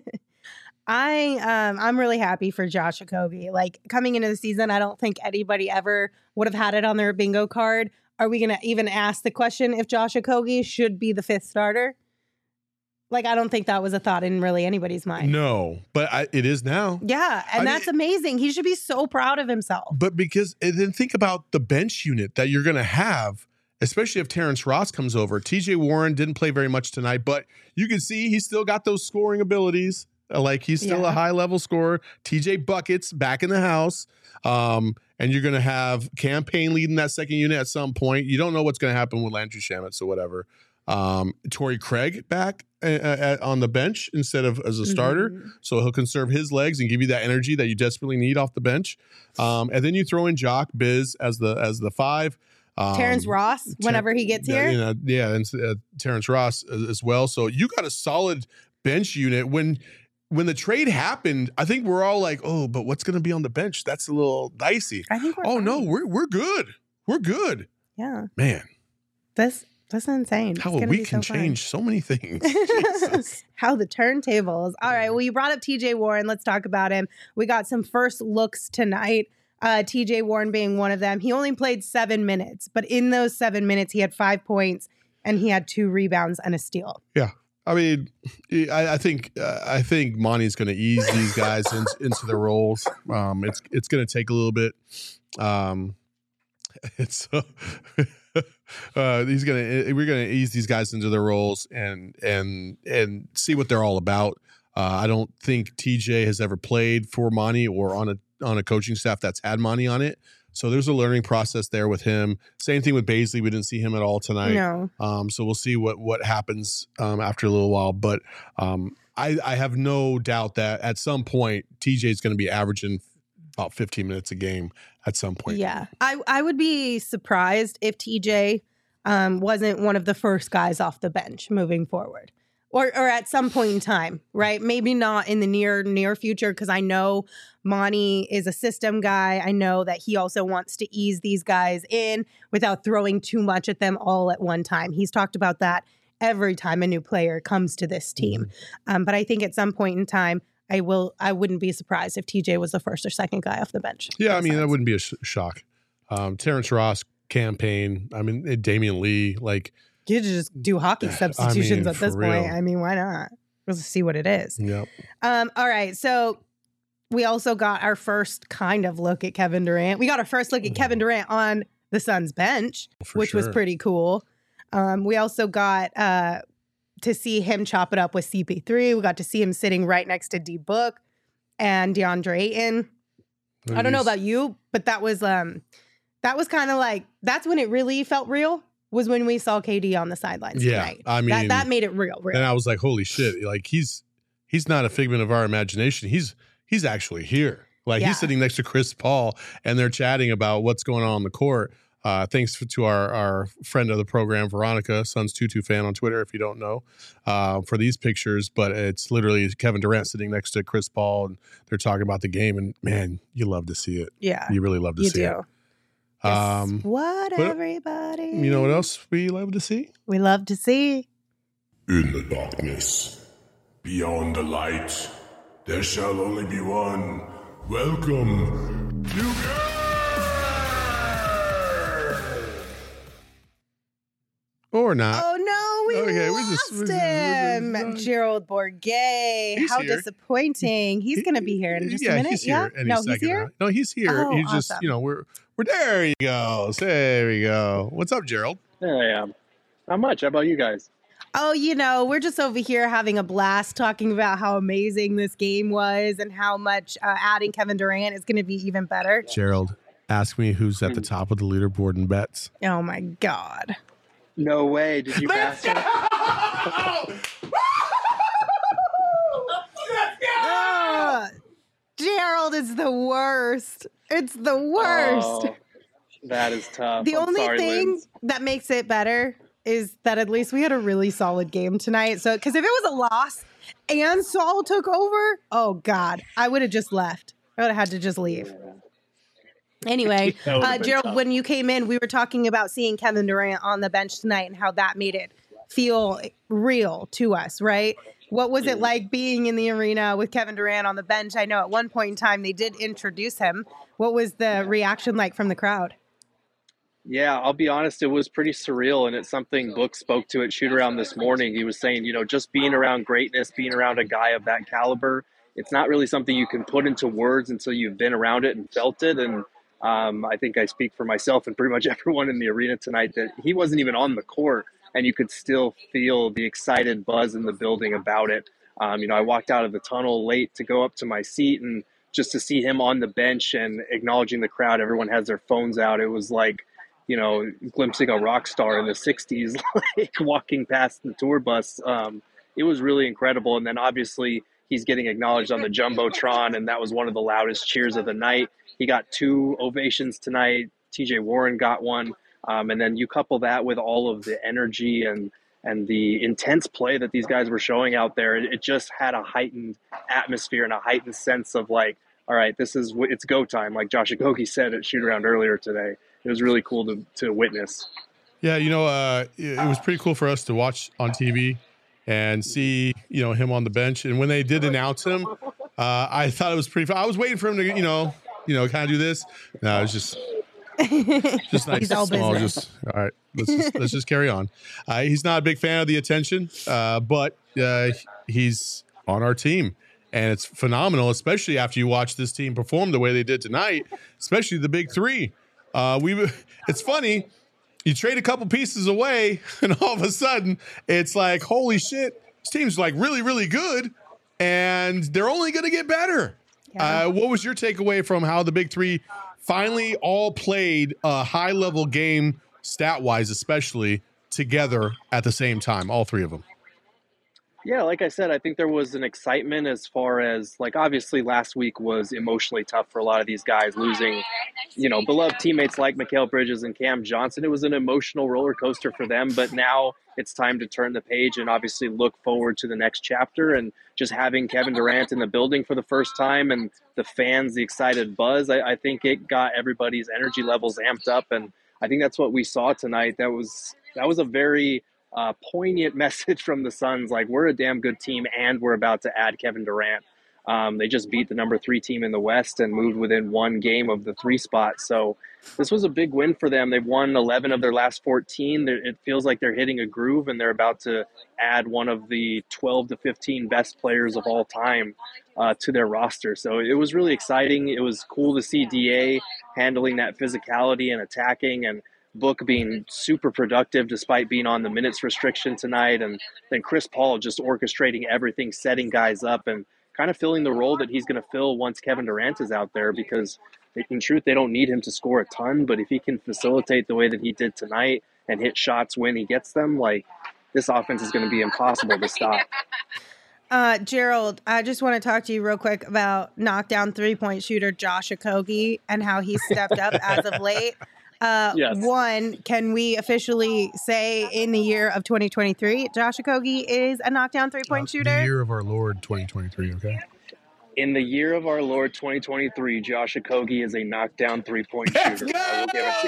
I um I'm really happy for Josh Okogie. Like coming into the season, I don't think anybody ever would have had it on their bingo card. Are we gonna even ask the question if Josh Okogie should be the fifth starter? Like I don't think that was a thought in really anybody's mind. No, but I, it is now. Yeah, and I that's mean- amazing. He should be so proud of himself. But because and then think about the bench unit that you're going to have, especially if Terrence Ross comes over. T J Warren didn't play very much tonight, but you can see he's still got those scoring abilities. Uh, Like he's still Yeah. a high level scorer. T J Buckets back in the house. Um, and you're going to have Campaign leading that second unit at some point. You don't know what's going to happen with Landry Shamet or whatever. Um, Torrey Craig back uh, uh, on the bench instead of as a starter. Mhm. So he'll conserve his legs and give you that energy that you desperately need off the bench. Um, and then you throw in Jock Biz as the as the five. Um, Terrence Ross, whenever he gets yeah, here. you know, yeah, and uh, Terrence Ross as, as well. So you got a solid bench unit. When when the trade happened, I think we're all like, oh, but what's going to be on the bench? That's a little dicey. I think we're Oh no, fine. we're we're good. We're good, Yeah. man. That's that's insane. How It's a gonna week be can so fun. change so many things. Jesus. How the turntables. All right. Well, you brought up T J Warren. Let's talk about him. We got some first looks tonight. Uh, T J Warren being one of them. He only played seven minutes, but in those seven minutes, he had five points and he had two rebounds and a steal. I mean, I, I think uh, I think Monty's going to ease these guys in, into their roles. Um, it's it's going to take a little bit. Um, it's uh, uh, he's going to we're going to ease these guys into their roles and and and see what they're all about. Uh, I don't think T J has ever played for Monty or on a on a coaching staff that's had Monty on it. So there's a learning process there with him. Same thing with Baisley. We didn't see him at all tonight. No. Um, so we'll see what what happens um, after a little while. But um, I, I have no doubt that at some point T J is going to be averaging about fifteen minutes a game at some point. Yeah. I, I would be surprised if T J um, wasn't one of the first guys off the bench moving forward. or or at some point in time, right? Maybe not in the near near future, because I know Monty is a system guy. I know that he also wants to ease these guys in without throwing too much at them all at one time. He's talked about that every time a new player comes to this team. Um, but I think at some point in time, I will. I wouldn't be surprised if T J was the first or second guy off the bench. Yeah, I mean, that wouldn't be a sh- shock. Um, Terrence Ross campaign. I mean, Damian Lee, like. You just do hockey substitutions I mean, at this real. point. I mean, why not? Let's see what it is. Yep. Um, all right. So we also got our first kind of look at Kevin Durant. We got our first look at Kevin Durant on the Suns bench, For which was sure. pretty cool. Um, we also got uh, to see him chop it up with C P three. We got to see him sitting right next to D Book and DeAndre Ayton. I don't know about you, but that was um, that was kind of like, that's when it really felt real. Was when we saw K D on the sidelines Yeah, tonight. I mean, that, that made it real, real. And I was like, holy shit. Like, he's he's not a figment of our imagination. He's he's actually here. Like, Yeah. he's sitting next to Chris Paul, and they're chatting about what's going on on the court. Uh, thanks to our, our friend of the program, Veronica, Suns Tutu fan on Twitter, if you don't know, uh, for these pictures. But it's literally Kevin Durant sitting next to Chris Paul, and they're talking about the game. And, man, you love to see it. Yeah. You really love to You see do. it. Guess Um, what, but- everybody? You know what else we love to see? We love to see. In the darkness, beyond the light, there shall only be one. Welcome to Or not. Oh no, we Okay, we lost just- we just- him. we just- Gerald Bourget. He's How here. disappointing. He's going to be here in just yeah, a minute. He's here yeah, any no, second he's here. now. No, he's here. Oh, he's just, awesome. you know, we're we're there. He goes. There we go. What's up, Gerald? There I am. Not much. How about you guys? Oh, you know, we're just over here having a blast talking about how amazing this game was and how much uh, adding Kevin Durant is going to be even better. Gerald, ask me who's at the top of the leaderboard in bets. Oh my God. No way. Did you bastard? Ugh. Gerald is the worst. It's the worst. Oh, that is tough. the I'm only sorry, thing Linz. that makes it better is that at least we had a really solid game tonight. So, because if it was a loss and Saul took over, oh God, I would have just left. I would have had to just leave. Anyway, That would've uh, been Gerald, tough. when you came in, we were talking about seeing Kevin Durant on the bench tonight and how that made it feel real to us, right? What was it like being in the arena with Kevin Durant on the bench? I know at one point in time they did introduce him. What was the reaction like from the crowd? Yeah, I'll be honest, it was pretty surreal, and it's something Book spoke to at shoot around this morning. He was saying, you know, just being around greatness, being around a guy of that caliber, it's not really something you can put into words until you've been around it and felt it. And um, I think I speak for myself and pretty much everyone in the arena tonight that he wasn't even on the court, and you could still feel the excited buzz in the building about it. Um, you know, I walked out of the tunnel late to go up to my seat, and just to see him on the bench and acknowledging the crowd, everyone has their phones out. It was like, you know, glimpsing a rock star in the sixties, like walking past the tour bus. Um, it was really incredible. And then obviously he's getting acknowledged on the Jumbotron, and that was one of the loudest cheers of the night. He got two ovations tonight. T J Warren got one. Um, and then you couple that with all of the energy and and the intense play that these guys were showing out there. It, it just had a heightened atmosphere and a heightened sense of like, all right, this is, it's go time. Like Josh Okogie said at shoot around earlier today. It was really cool to, to witness. Yeah, you know, uh, it, it was pretty cool for us to watch on T V and see, you know, him on the bench. And when they did announce him, uh, I thought it was pretty fun. I was waiting for him to, you know, you know, kind of do this. No, it was just, just nice. He's all small, business. just, all right, let's just, let's just carry on. Uh, he's not a big fan of the attention, uh, but uh, he's on our team. And it's phenomenal, especially after you watch this team perform the way they did tonight, especially the big three. Uh, we, it's funny, you trade a couple pieces away, and all of a sudden, it's like, holy shit, this team's like really, really good, and they're only going to get better. Yeah. Uh, what was your takeaway from how the big three finally all played a high-level game, stat-wise especially, together at the same time, all three of them? Yeah, like I said, I think there was an excitement as far as, like, obviously last week was emotionally tough for a lot of these guys losing, you know, beloved teammates like Mikal Bridges and Cam Johnson. It was an emotional roller coaster for them, but now it's time to turn the page and obviously look forward to the next chapter. And just having Kevin Durant in the building for the first time and the fans, the excited buzz, I, I think it got everybody's energy levels amped up. And I think that's what we saw tonight. That was that was a very uh, poignant message from the Suns. Like, we're a damn good team, and we're about to add Kevin Durant. Um, they just beat the number three team in the West and moved within one game of the three spot. So this was a big win for them. They've won eleven of their last fourteen. They're, it feels like they're hitting a groove, and they're about to add one of the twelve to fifteen best players of all time uh, to their roster. So it was really exciting. It was cool to see D A handling that physicality and attacking, and Book being super productive despite being on the minutes restriction tonight. And then Chris Paul just orchestrating everything, setting guys up, and kind of filling the role that he's going to fill once Kevin Durant is out there, because in truth, they don't need him to score a ton, but if he can facilitate the way that he did tonight and hit shots when he gets them, like, this offense is going to be impossible to stop. Uh, Gerald, I just want to talk to you real quick about knockdown three-point shooter Josh Okogie and how he's stepped up as of late. Uh, Yes. One, can we officially say in the year of twenty twenty-three, Josh Okogie is a knockdown three-point Uh, shooter? The year of our Lord, twenty twenty-three. Okay. In the year of our Lord twenty twenty-three, Josh Okogie is a knockdown three-point shooter. I will give it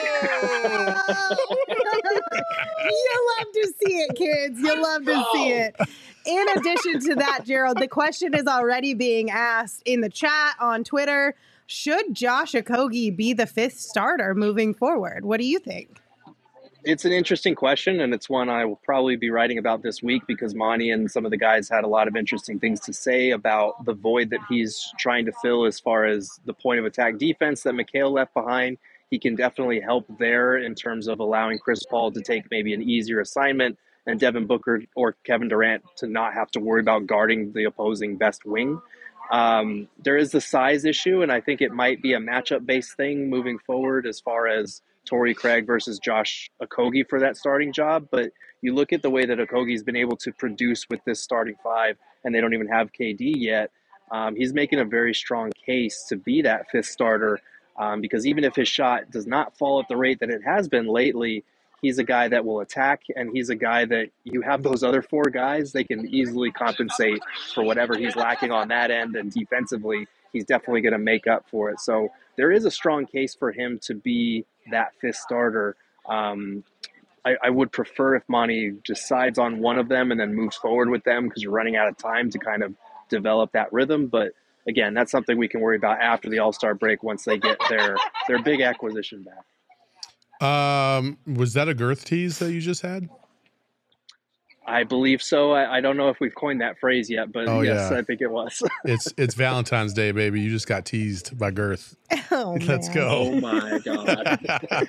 to you. You love to see it, kids. You love to see it. In addition to that, Gerald, the question is already being asked in the chat on Twitter. Should Josh Okogie be the fifth starter moving forward? What do you think? It's an interesting question, and it's one I will probably be writing about this week, because Monty and some of the guys had a lot of interesting things to say about the void that he's trying to fill as far as the point of attack defense that Mikal left behind. He can definitely help there in terms of allowing Chris Paul to take maybe an easier assignment, and Devin Booker or Kevin Durant to not have to worry about guarding the opposing best wing. Um, there is the size issue, and I think it might be a matchup-based thing moving forward as far as Torrey Craig versus Josh Okogie for that starting job. But you look at the way that Okogie's been able to produce with this starting five, and they don't even have K D yet. Um, he's making a very strong case to be that fifth starter, um, because even if his shot does not fall at the rate that it has been lately, he's a guy that will attack, and he's a guy that you have those other four guys, they can easily compensate for whatever he's lacking on that end, and defensively, he's definitely going to make up for it. So there is a strong case for him to be that fifth starter. Um, I, I would prefer if Monty decides on one of them and then moves forward with them, because you're running out of time to kind of develop that rhythm. But again, that's something we can worry about after the All-Star break once they get their their big acquisition back. Um, was that a girth tease that you just had? I believe so. I, I don't know if we've coined that phrase yet, but Oh, yes, yeah. I think it was. It's it's Valentine's Day, baby. You just got teased by girth. Oh, Let's man. go. Oh my God.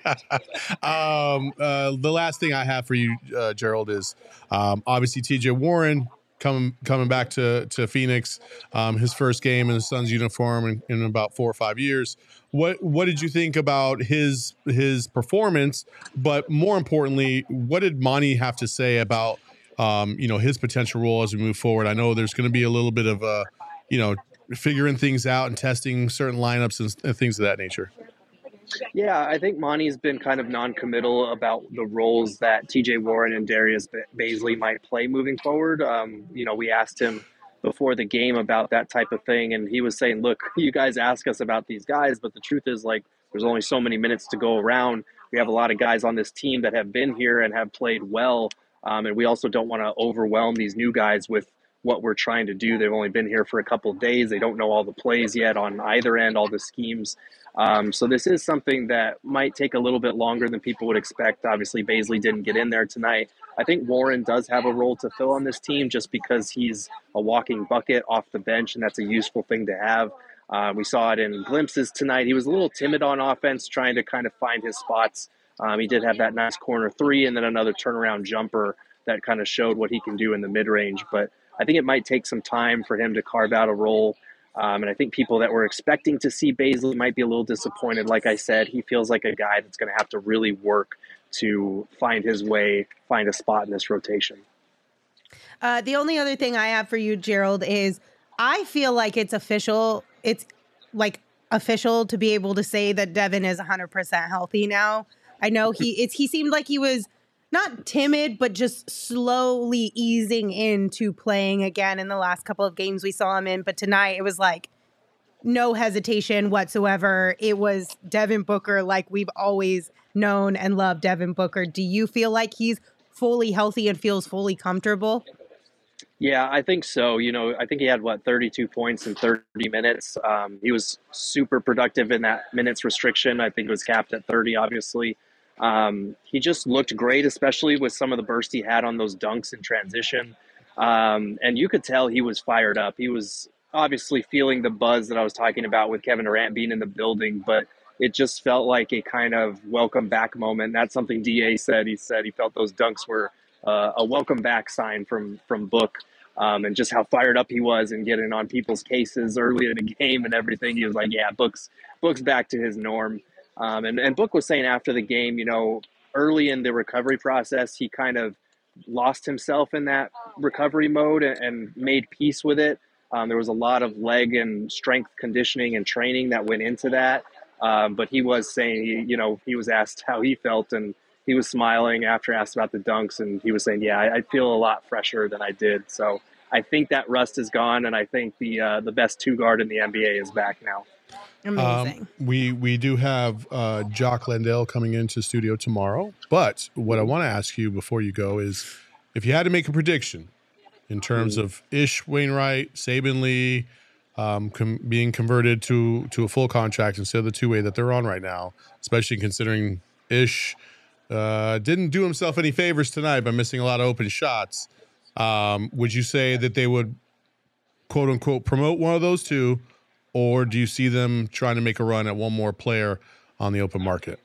um, uh, the last thing I have for you, uh, Gerald, is um, obviously T J Warren coming coming back to to Phoenix. Um, his first game in the Suns uniform in, in about four or five years. What what did you think about his his performance? But more importantly, what did Monty have to say about um, you know his potential role as we move forward? I know there's going to be a little bit of uh, you know figuring things out and testing certain lineups and, and things of that nature. Yeah, I think Monty's been kind of non-committal about the roles that T J Warren and Darius Bazley might play moving forward. Um, you know, we asked him before the game about that type of thing, and he was saying, look, you guys ask us about these guys, but the truth is, like, there's only so many minutes to go around. We have a lot of guys on this team that have been here and have played well, um, and we also don't want to overwhelm these new guys with what we're trying to do. They've only been here for a couple of days. They don't know all the plays yet on either end, all the schemes. Um, so this is something that might take a little bit longer than people would expect. Obviously, Bazley didn't get in there tonight. I think Warren does have a role to fill on this team just because he's a walking bucket off the bench, and that's a useful thing to have. Uh, we saw it in glimpses tonight. He was a little timid on offense, trying to kind of find his spots. Um, he did have that nice corner three and then another turnaround jumper that kind of showed what he can do in the mid-range. But I think it might take some time for him to carve out a role. Um, and I think people that were expecting to see Bazley might be a little disappointed. Like I said, he feels like a guy that's going to have to really work to find his way, find a spot in this rotation. Uh, the only other thing I have for you, Gerald, is I feel like it's official. It's like official to be able to say that Devin is one hundred percent healthy now. I know he it's he seemed like he was not timid, but just slowly easing into playing again in the last couple of games we saw him in. But tonight it was like no hesitation whatsoever. It was Devin Booker like we've always known and loved Devin Booker. Do you feel like he's fully healthy and feels fully comfortable? Yeah, I think so. You know, I think he had, what, thirty-two points in thirty minutes. Um, he was super productive in that minutes restriction. I think it was capped at thirty, obviously. Um, he just looked great, especially with some of the burst he had on those dunks in transition. Um, and you could tell he was fired up. He was obviously feeling the buzz that I was talking about with Kevin Durant being in the building, but it just felt like a kind of welcome back moment. That's something D A said. He said he felt those dunks were uh, a welcome back sign from, from Book. Um, and just how fired up he was and getting on people's cases early in the game and everything. He was like, yeah, Book's, Book's back to his norm. Um, and, and Book was saying after the game, you know, early in the recovery process, he kind of lost himself in that recovery mode and, and made peace with it. Um, there was a lot of leg and strength conditioning and training that went into that. Um, but he was saying, he, you know, he was asked how he felt, and he was smiling after asked about the dunks, and he was saying, yeah, I, I feel a lot fresher than I did. So I think that rust is gone, and I think the uh, the best two guard in the N B A is back now. Amazing. Um, we we do have uh, Jock Landale coming into studio tomorrow, but what I want to ask you before you go is, if you had to make a prediction in terms mm. of Ish Wainwright, Saben Lee um, com- being converted to to a full contract instead of the two way that they're on right now, especially considering Ish uh, didn't do himself any favors tonight by missing a lot of open shots. Um, would you say that they would, quote unquote, promote one of those two, or do you see them trying to make a run at one more player on the open market?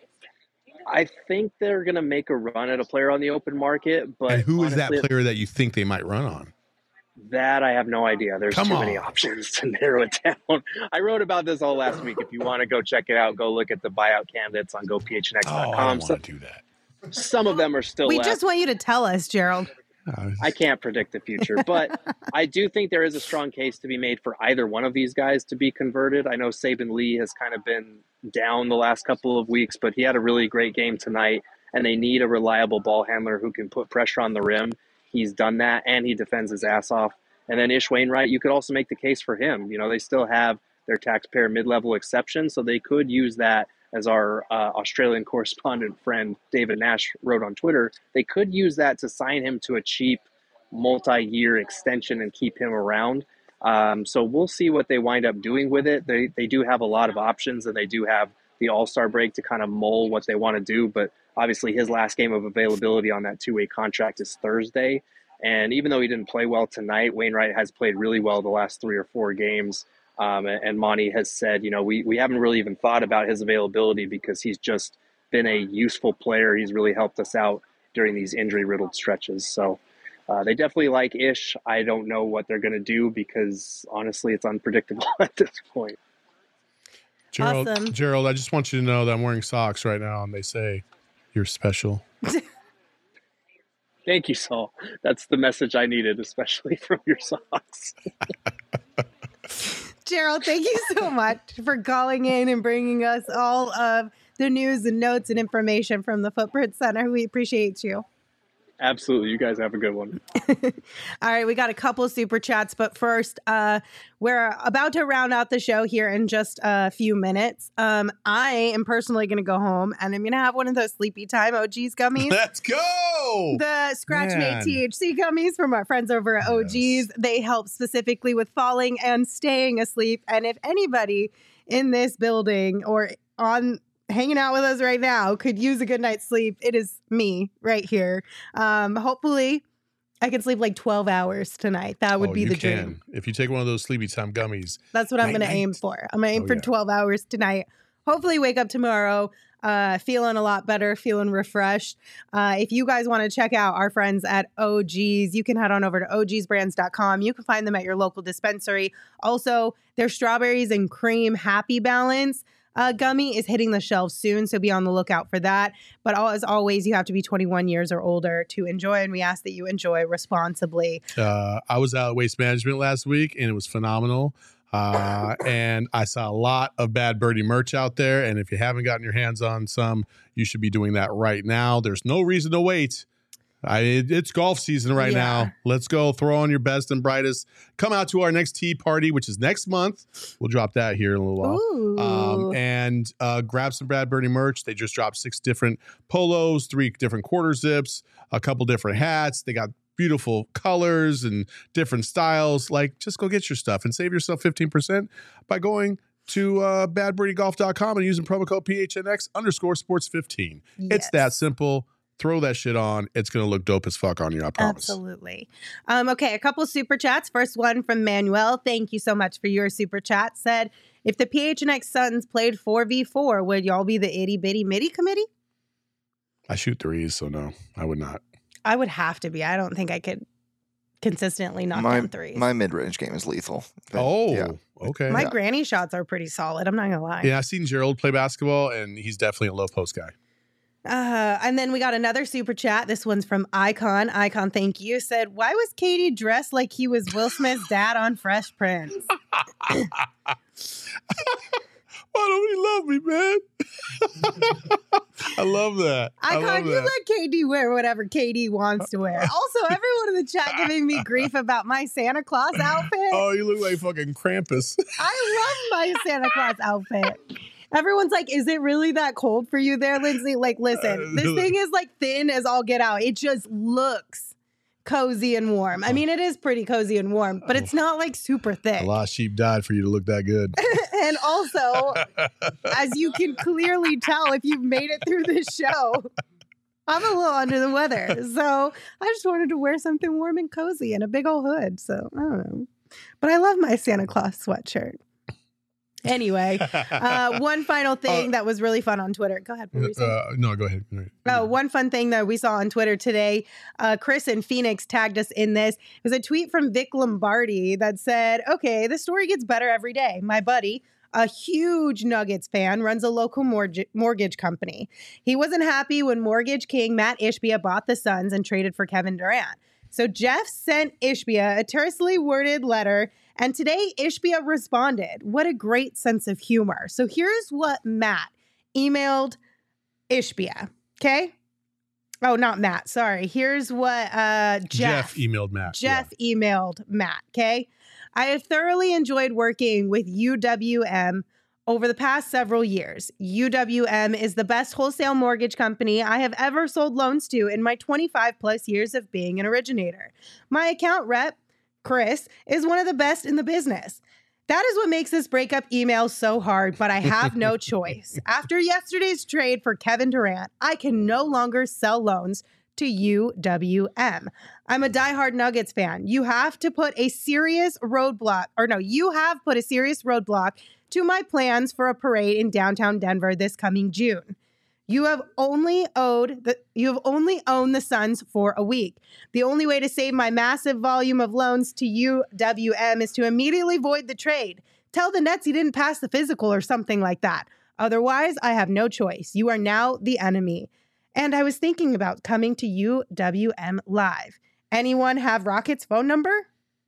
I think they're going to make a run at a player on the open market, but and who honestly, is that player that you think they might run on? That I have no idea. There's Come too on. many options to narrow it down. I wrote about this all last week. If you want to go check it out, go look at the buyout candidates on go P H N X dot com. Oh, I don't so, want to do that. Some of them are still We left. just want you to tell us, Gerald. I can't predict the future, but I do think there is a strong case to be made for either one of these guys to be converted. I know Saben Lee has kind of been down the last couple of weeks, but he had a really great game tonight, and they need a reliable ball handler who can put pressure on the rim. He's done that, and he defends his ass off. And then Ish Wainwright, you could also make the case for him. You know, they still have their taxpayer mid-level exception, so they could use that. As our uh, Australian correspondent friend David Nash wrote on Twitter, they could use that to sign him to a cheap multi-year extension and keep him around. Um, so we'll see what they wind up doing with it. They they do have a lot of options, and they do have the All-Star break to kind of mull what they want to do. But obviously his last game of availability on that two-way contract is Thursday. And even though he didn't play well tonight, Wainwright has played really well the last three or four games. Um, and Monty has said, you know, we, we haven't really even thought about his availability because he's just been a useful player. He's really helped us out during these injury-riddled stretches. So uh, they definitely like Ish. I don't know what they're going to do because, honestly, it's unpredictable at this point. Gerald, Awesome. Gerald, I just want you to know that I'm wearing socks right now, and they say you're special. Thank you, Saul. That's the message I needed, especially from your socks. Gerald, thank you so much for calling in and bringing us all of the news and notes and information from the Footprint Center. We appreciate you. Absolutely. You guys have a good one. All right, we got a couple of super chats, but first, uh, we're about to round out the show here in just a few minutes. Um, I am personally going to go home and I'm going to have one of those Sleepy Time O Gs gummies. Let's go! The Scratch Man. Made T H C gummies from our friends over at O Gs. Yes. They help specifically with falling and staying asleep. And if anybody in this building or on hanging out with us right now could use a good night's sleep, it is me right here. Um, hopefully I can sleep like twelve hours tonight. That would Oh, be you the can. dream. If you take one of those Sleepy Time gummies. That's what I'm Night, going to aim night. for. I'm going to aim Oh, for yeah. twelve hours tonight. Hopefully wake up tomorrow uh, feeling a lot better, feeling refreshed. Uh, if you guys want to check out our friends at O Gs, you can head on over to O Gs brands dot com. You can find them at your local dispensary. Also, their strawberries and cream Happy Balance. uh, gummy is hitting the shelves soon, so be on the lookout for that. But all, as always, you have to be twenty-one years or older to enjoy, and we ask that you enjoy responsibly. Uh, I was out at Waste Management last week, and it was phenomenal. Uh, and I saw a lot of Bad Birdie merch out there. And if you haven't gotten your hands on some, you should be doing that right now. There's no reason to wait. I, it, it's golf season right Yeah. now. Let's go throw on your best and brightest. Come out to our next tea party, which is next month. We'll drop that here in a little while. Ooh. Um, and uh, grab some Bad Birdie merch. They just dropped six different polos, three different quarter zips, a couple different hats. They got beautiful colors and different styles. Like, just go get your stuff and save yourself fifteen percent by going to uh, bad birdie golf dot com and using promo code P H N X underscore sports fifteen. It's Yes. that simple. Throw that shit on. It's going to look dope as fuck on you, I promise. Absolutely. Um, okay, a couple super chats. First one from Manuel. Thank you so much for your super chat. Said, if the P H N X Suns played four v four, would y'all be the itty bitty mitty committee? I shoot threes, so no, I would not. I would have to be. I don't think I could consistently knock my down threes. my mid range game is lethal. But, Oh, yeah. okay. My yeah. granny shots are pretty solid. I'm not going to lie. yeah, I've seen Gerald play basketball, and he's definitely a low post guy. Uh, and then we got another super chat. This one's from Icon. Icon, thank you. Said, why was Katie dressed like he was Will Smith's dad on Fresh Prince? Why don't he love me, man? I love that. I Icon, love you that. let K D wear whatever K D wants to wear. Also, everyone in the chat giving me grief about my Santa Claus outfit. Oh, you look like fucking Krampus. I love my Santa Claus outfit. Everyone's like, is it really that cold for you there, Lindsay? Like, listen, this thing is like thin as all get out. It just looks cozy and warm. I mean, it is pretty cozy and warm, but it's not like super thick. A lot of sheep died for you to look that good. And also, as you can clearly tell if you've made it through this show, I'm a little under the weather. So I just wanted to wear something warm and cozy and a big old hood. So I don't know. But I love my Santa Claus sweatshirt. Anyway, uh, one final thing Uh, that was really fun on Twitter. Go ahead. What were you saying? Uh, no, go ahead. Go ahead. Oh, one fun thing that we saw on Twitter today, uh, Chris and Phoenix tagged us in this. It was a tweet from Vic Lombardi that said, okay, the story gets better every day. My buddy, a huge Nuggets fan, runs a local mortgage, mortgage company. He wasn't happy when mortgage king Matt Ishbia bought the Suns and traded for Kevin Durant. So Jeff sent Ishbia a tersely worded letter, and today Ishbia responded. What a great sense of humor. So here's what Matt emailed Ishbia. Okay. Oh, not Matt. Sorry. Here's what uh, Jeff, Jeff emailed Matt. Jeff emailed Matt. Okay. I have thoroughly enjoyed working with U W M over the past several years. U W M is the best wholesale mortgage company I have ever sold loans to in my twenty-five plus years of being an originator. My account rep, Chris, is one of the best in the business. That is what makes this breakup email so hard, but I have no choice. After yesterday's trade for Kevin Durant, I can no longer sell loans to U W M. I'm a diehard Nuggets fan. You have to put a serious roadblock, or no, you have put a serious roadblock to my plans for a parade in downtown Denver this coming June. You have only owed the you have only owned the Suns for a week. The only way to save my massive volume of loans to U W M is to immediately void the trade. Tell the Nets he didn't pass the physical or something like that. Otherwise, I have no choice. You are now the enemy. And I was thinking about coming to U W M live. Anyone have Rocket's phone number?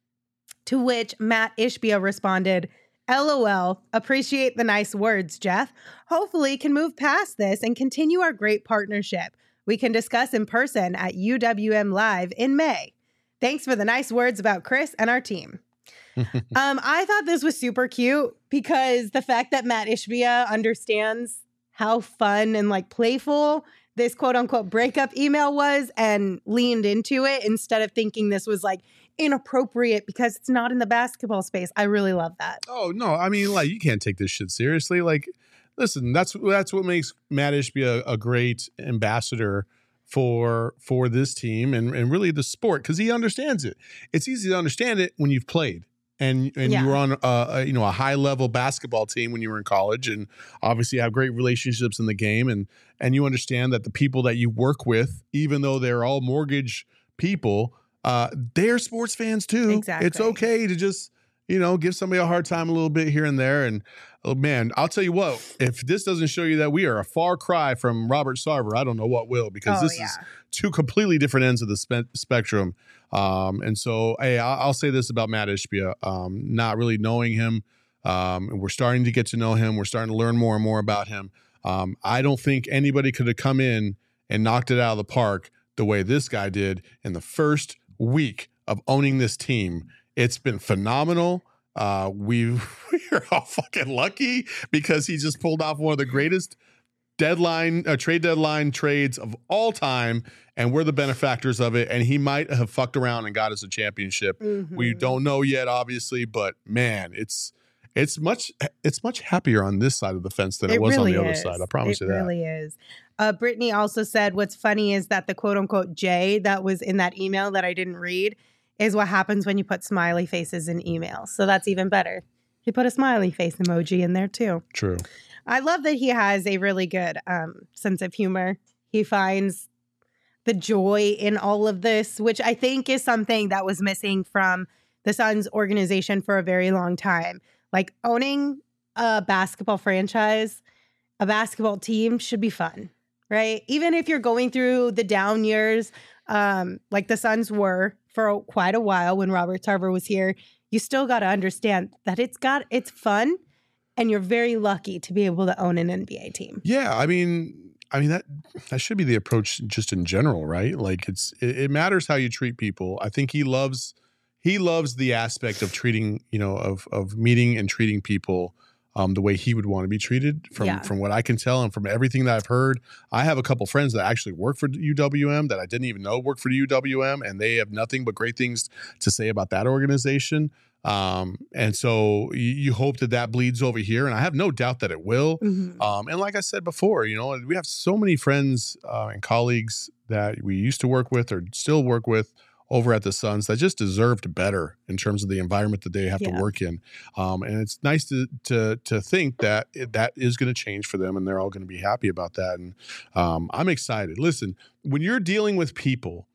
To which Matt Ishbia responded, LOL, appreciate the nice words, Jeff. Hopefully can move past this and continue our great partnership. We can discuss in person at U W M Live in May. Thanks for the nice words about Chris and our team. um, I thought this was super cute because the fact that Matt Ishbia understands how fun and like playful this quote unquote breakup email was and leaned into it instead of thinking this was like inappropriate because it's not in the basketball space. I really love that. Oh no, I mean, like, you can't take this shit seriously. Like, listen, that's that's what makes Matt Ishbia a, a great ambassador for for this team and, and really the sport, because he understands it. It's easy to understand it when you've played and and Yeah. you were on a, a you know a high level basketball team when you were in college, and obviously have great relationships in the game, and and you understand that the people that you work with, even though they're all mortgage people, uh, they're sports fans too. Exactly. It's okay to just you know, give somebody a hard time a little bit here and there. And oh man, I'll tell you what, if this doesn't show you that we are a far cry from Robert Sarver, I don't know what will, because Oh, this yeah. is two completely different ends of the spe- spectrum. Um, and so, hey, I'll, I'll say this about Matt Ishbia, um, not really knowing him. Um, and we're starting to get to know him. We're starting to learn more and more about him. Um, I don't think anybody could have come in and knocked it out of the park the way this guy did in the first week of owning this team. It's been phenomenal. Uh, we we're all fucking lucky because he just pulled off one of the greatest deadline uh, trade deadline trades of all time, and we're the benefactors of it. And he might have fucked around and got us a championship. Mhm. We don't know yet, obviously, but man, it's it's much it's much happier on this side of the fence than it, was really on the other is. side. I promise it you that. It really is. Uh, Brittany also said, what's funny is that the quote unquote J that was in that email that I didn't read is what happens when you put smiley faces in emails. So that's even better. He put a smiley face emoji in there too. True. I love that he has a really good um, sense of humor. He finds the joy in all of this, which I think is something that was missing from the Suns organization for a very long time. Like, owning a basketball franchise, a basketball team should be fun, right? Even if you're going through the down years, um, like the Suns were for quite a while when Robert Sarver was here, you still got to understand that it's got it's fun, and you're very lucky to be able to own an N B A team. Yeah, I mean, I mean that that should be the approach just in general, right? Like, it's it, it matters how you treat people. I think he loves he loves the aspect of treating, you know, of of meeting and treating people um, the way he would want to be treated. From Yeah. from what I can tell and from everything that I've heard, I have a couple friends that actually work for U W M that I didn't even know work for U W M, and they have nothing but great things to say about that organization. Um, and so you, you hope that that bleeds over here, and I have no doubt that it will. Mhm. Um, and like I said before, you know, we have so many friends uh, and colleagues that we used to work with or still work with over at the Suns that just deserved better in terms of the environment that they have Yeah. to work in. Um, and it's nice to to to think that it, that is going to change for them, and they're all going to be happy about that. And um, I'm excited. Listen, when you're dealing with people,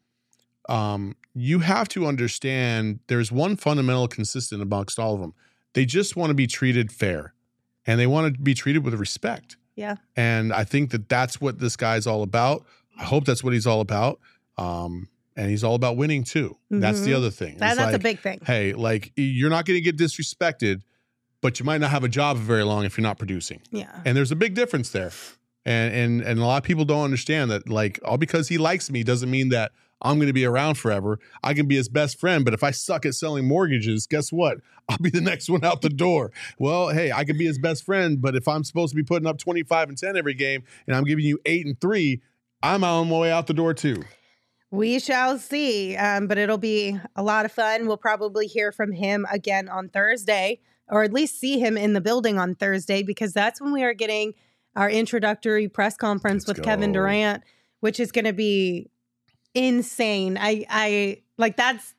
um, you have to understand there's one fundamental consistent amongst all of them. They just want to be treated fair, and they want to be treated with respect. Yeah. And I think that that's what this guy's all about. I hope that's what he's all about. Um, and he's all about winning too. That's the Mhm. other thing. That, It's that's a like, big thing. hey, like, you're not going to get disrespected, but you might not have a job for very long if you're not producing. Yeah. And there's a big difference there. And and and a lot of people don't understand that, like, all because he likes me doesn't mean that I'm going to be around forever. I can be his best friend, but if I suck at selling mortgages, guess what? I'll be the next one out the door. Well, hey, I can be his best friend, but if I'm supposed to be putting up twenty-five and ten every game and I'm giving you eight and three, I'm on my way out the door too. We shall see, um, but it'll be a lot of fun. We'll probably hear from him again on Thursday, or at least see him in the building on Thursday, because that's when we are getting our introductory press conference Let's with Kevin go. Durant, which is going to be insane. I, I like that's,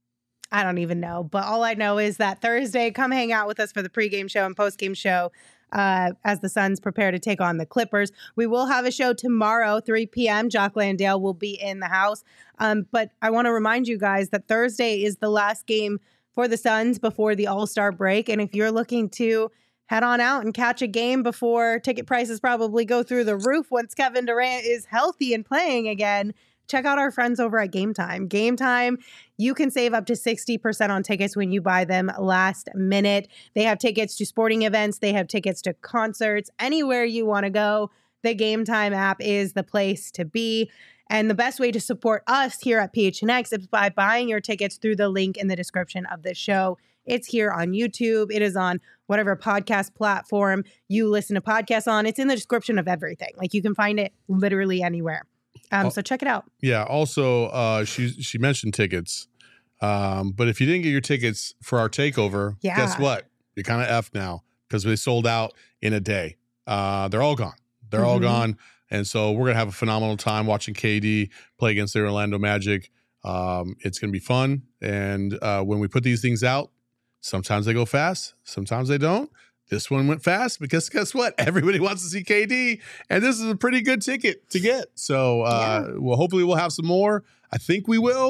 I don't even know, but all I know is that Thursday, come hang out with us for the pregame show and postgame show. Uh, as the Suns prepare to take on the Clippers. We will have a show tomorrow, three p.m. Jock Landale will be in the house. Um, but I want to remind you guys that Thursday is the last game for the Suns before the All-Star break. And if you're looking to head on out and catch a game before ticket prices probably go through the roof once Kevin Durant is healthy and playing again, check out our friends over at Game Time. Game Time, you can save up to sixty percent on tickets when you buy them last minute. They have tickets to sporting events. They have tickets to concerts. Anywhere you want to go, the Game Time app is the place to be. And the best way to support us here at P H N X is by buying your tickets through the link in the description of this show. It's here on YouTube. It is on whatever podcast platform you listen to podcasts on. It's in the description of everything. Like, you can find it literally anywhere. Um, Oh. so check it out. Yeah. Also, uh, she she mentioned tickets, um, but if you didn't get your tickets for our takeover, Yeah. guess what? You're kind of effed now because they sold out in a day. Uh, they're all gone. They're all Mhm. gone, and so we're gonna have a phenomenal time watching K D play against the Orlando Magic. Um, it's gonna be fun, and uh, when we put these things out, sometimes they go fast, sometimes they don't. This one went fast because guess what? Everybody wants to see K D, and this is a pretty good ticket to get. So, uh, well, hopefully we'll have some more. I think we will,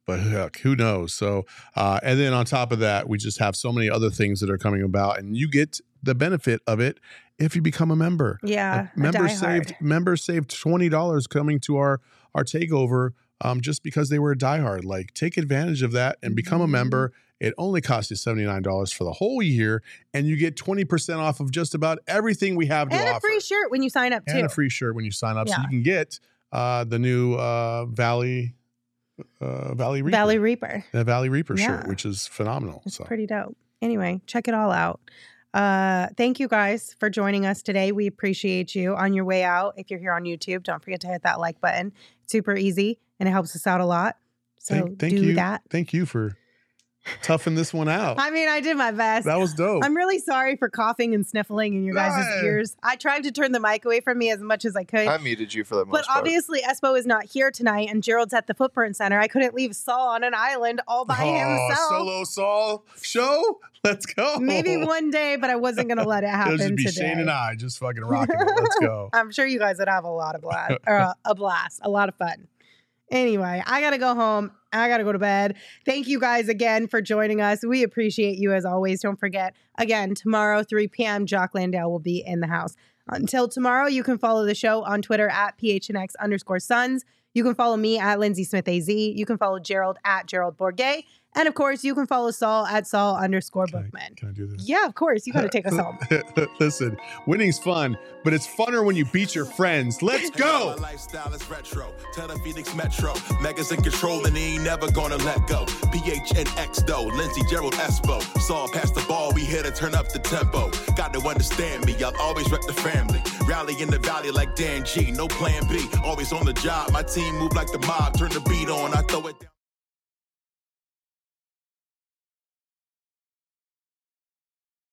But heck, who knows? So, uh, and then on top of that, we just have so many other things that are coming about, and you get the benefit of it if you become a member. Yeah, uh, members saved members saved twenty dollars coming to our our takeover um, just because they were a diehard. Like, take advantage of that and become a member. It only costs you seventy-nine dollars for the whole year, and you get twenty percent off of just about everything we have to and offer. a free shirt when you sign up too. And a free shirt when you sign up, Yeah. so you can get uh, the new uh, Valley. Uh, Valley Reaper. Valley Reaper. The Valley Reaper Yeah. shirt, which is phenomenal. It's so. pretty dope. Anyway, check it all out. Uh, thank you guys for joining us today. We appreciate you. On your way out, if you're here on YouTube, don't forget to hit that like button. It's super easy and it helps us out a lot. So thank, thank do you. that. Thank you for toughing this one out. I mean, I did my best. That was dope. I'm really sorry for coughing and sniffling in your guys' Yeah. ears. I tried to turn the mic away from me as much as I could. I muted you for that most But part. obviously, Espo is not here tonight, and Gerald's at the Footprint Center. I couldn't leave Saul on an island all by Oh, himself. solo Saul show. Let's go. Maybe one day, but I wasn't going to let it happen It'll just be today. Shane and I just fucking rocking it. Let's go. I'm sure you guys would have a lot of blast, or a, a blast, a lot of fun. Anyway, I got to go home. I got to go to bed. Thank you guys again for joining us. We appreciate you as always. Don't forget, again, tomorrow, three p.m., Jock Landale will be in the house. Until tomorrow, you can follow the show on Twitter at P H N X underscore Sons. You can follow me at Lindsay Smith A Z. You can follow Gerald at Gerald Bourget. And of course, you can follow Saul at Saul underscore Can I, Bookman. can I do this? Yeah, of course. You got to take us home. Listen, winning's fun, but it's funner when you beat your friends. Let's go. My lifestyle is retro. Tell the Phoenix Metro. Megas in control and he ain't never gonna let go. P H N X though. Lindsay, Gerald, Espo. Saw past the ball. We here to turn up the tempo. Got to understand me. I'll always wreck the family. Rally in the valley like Dan G. No plan B. Always on the job. My team move like the mob. Turn the beat on. I throw it down.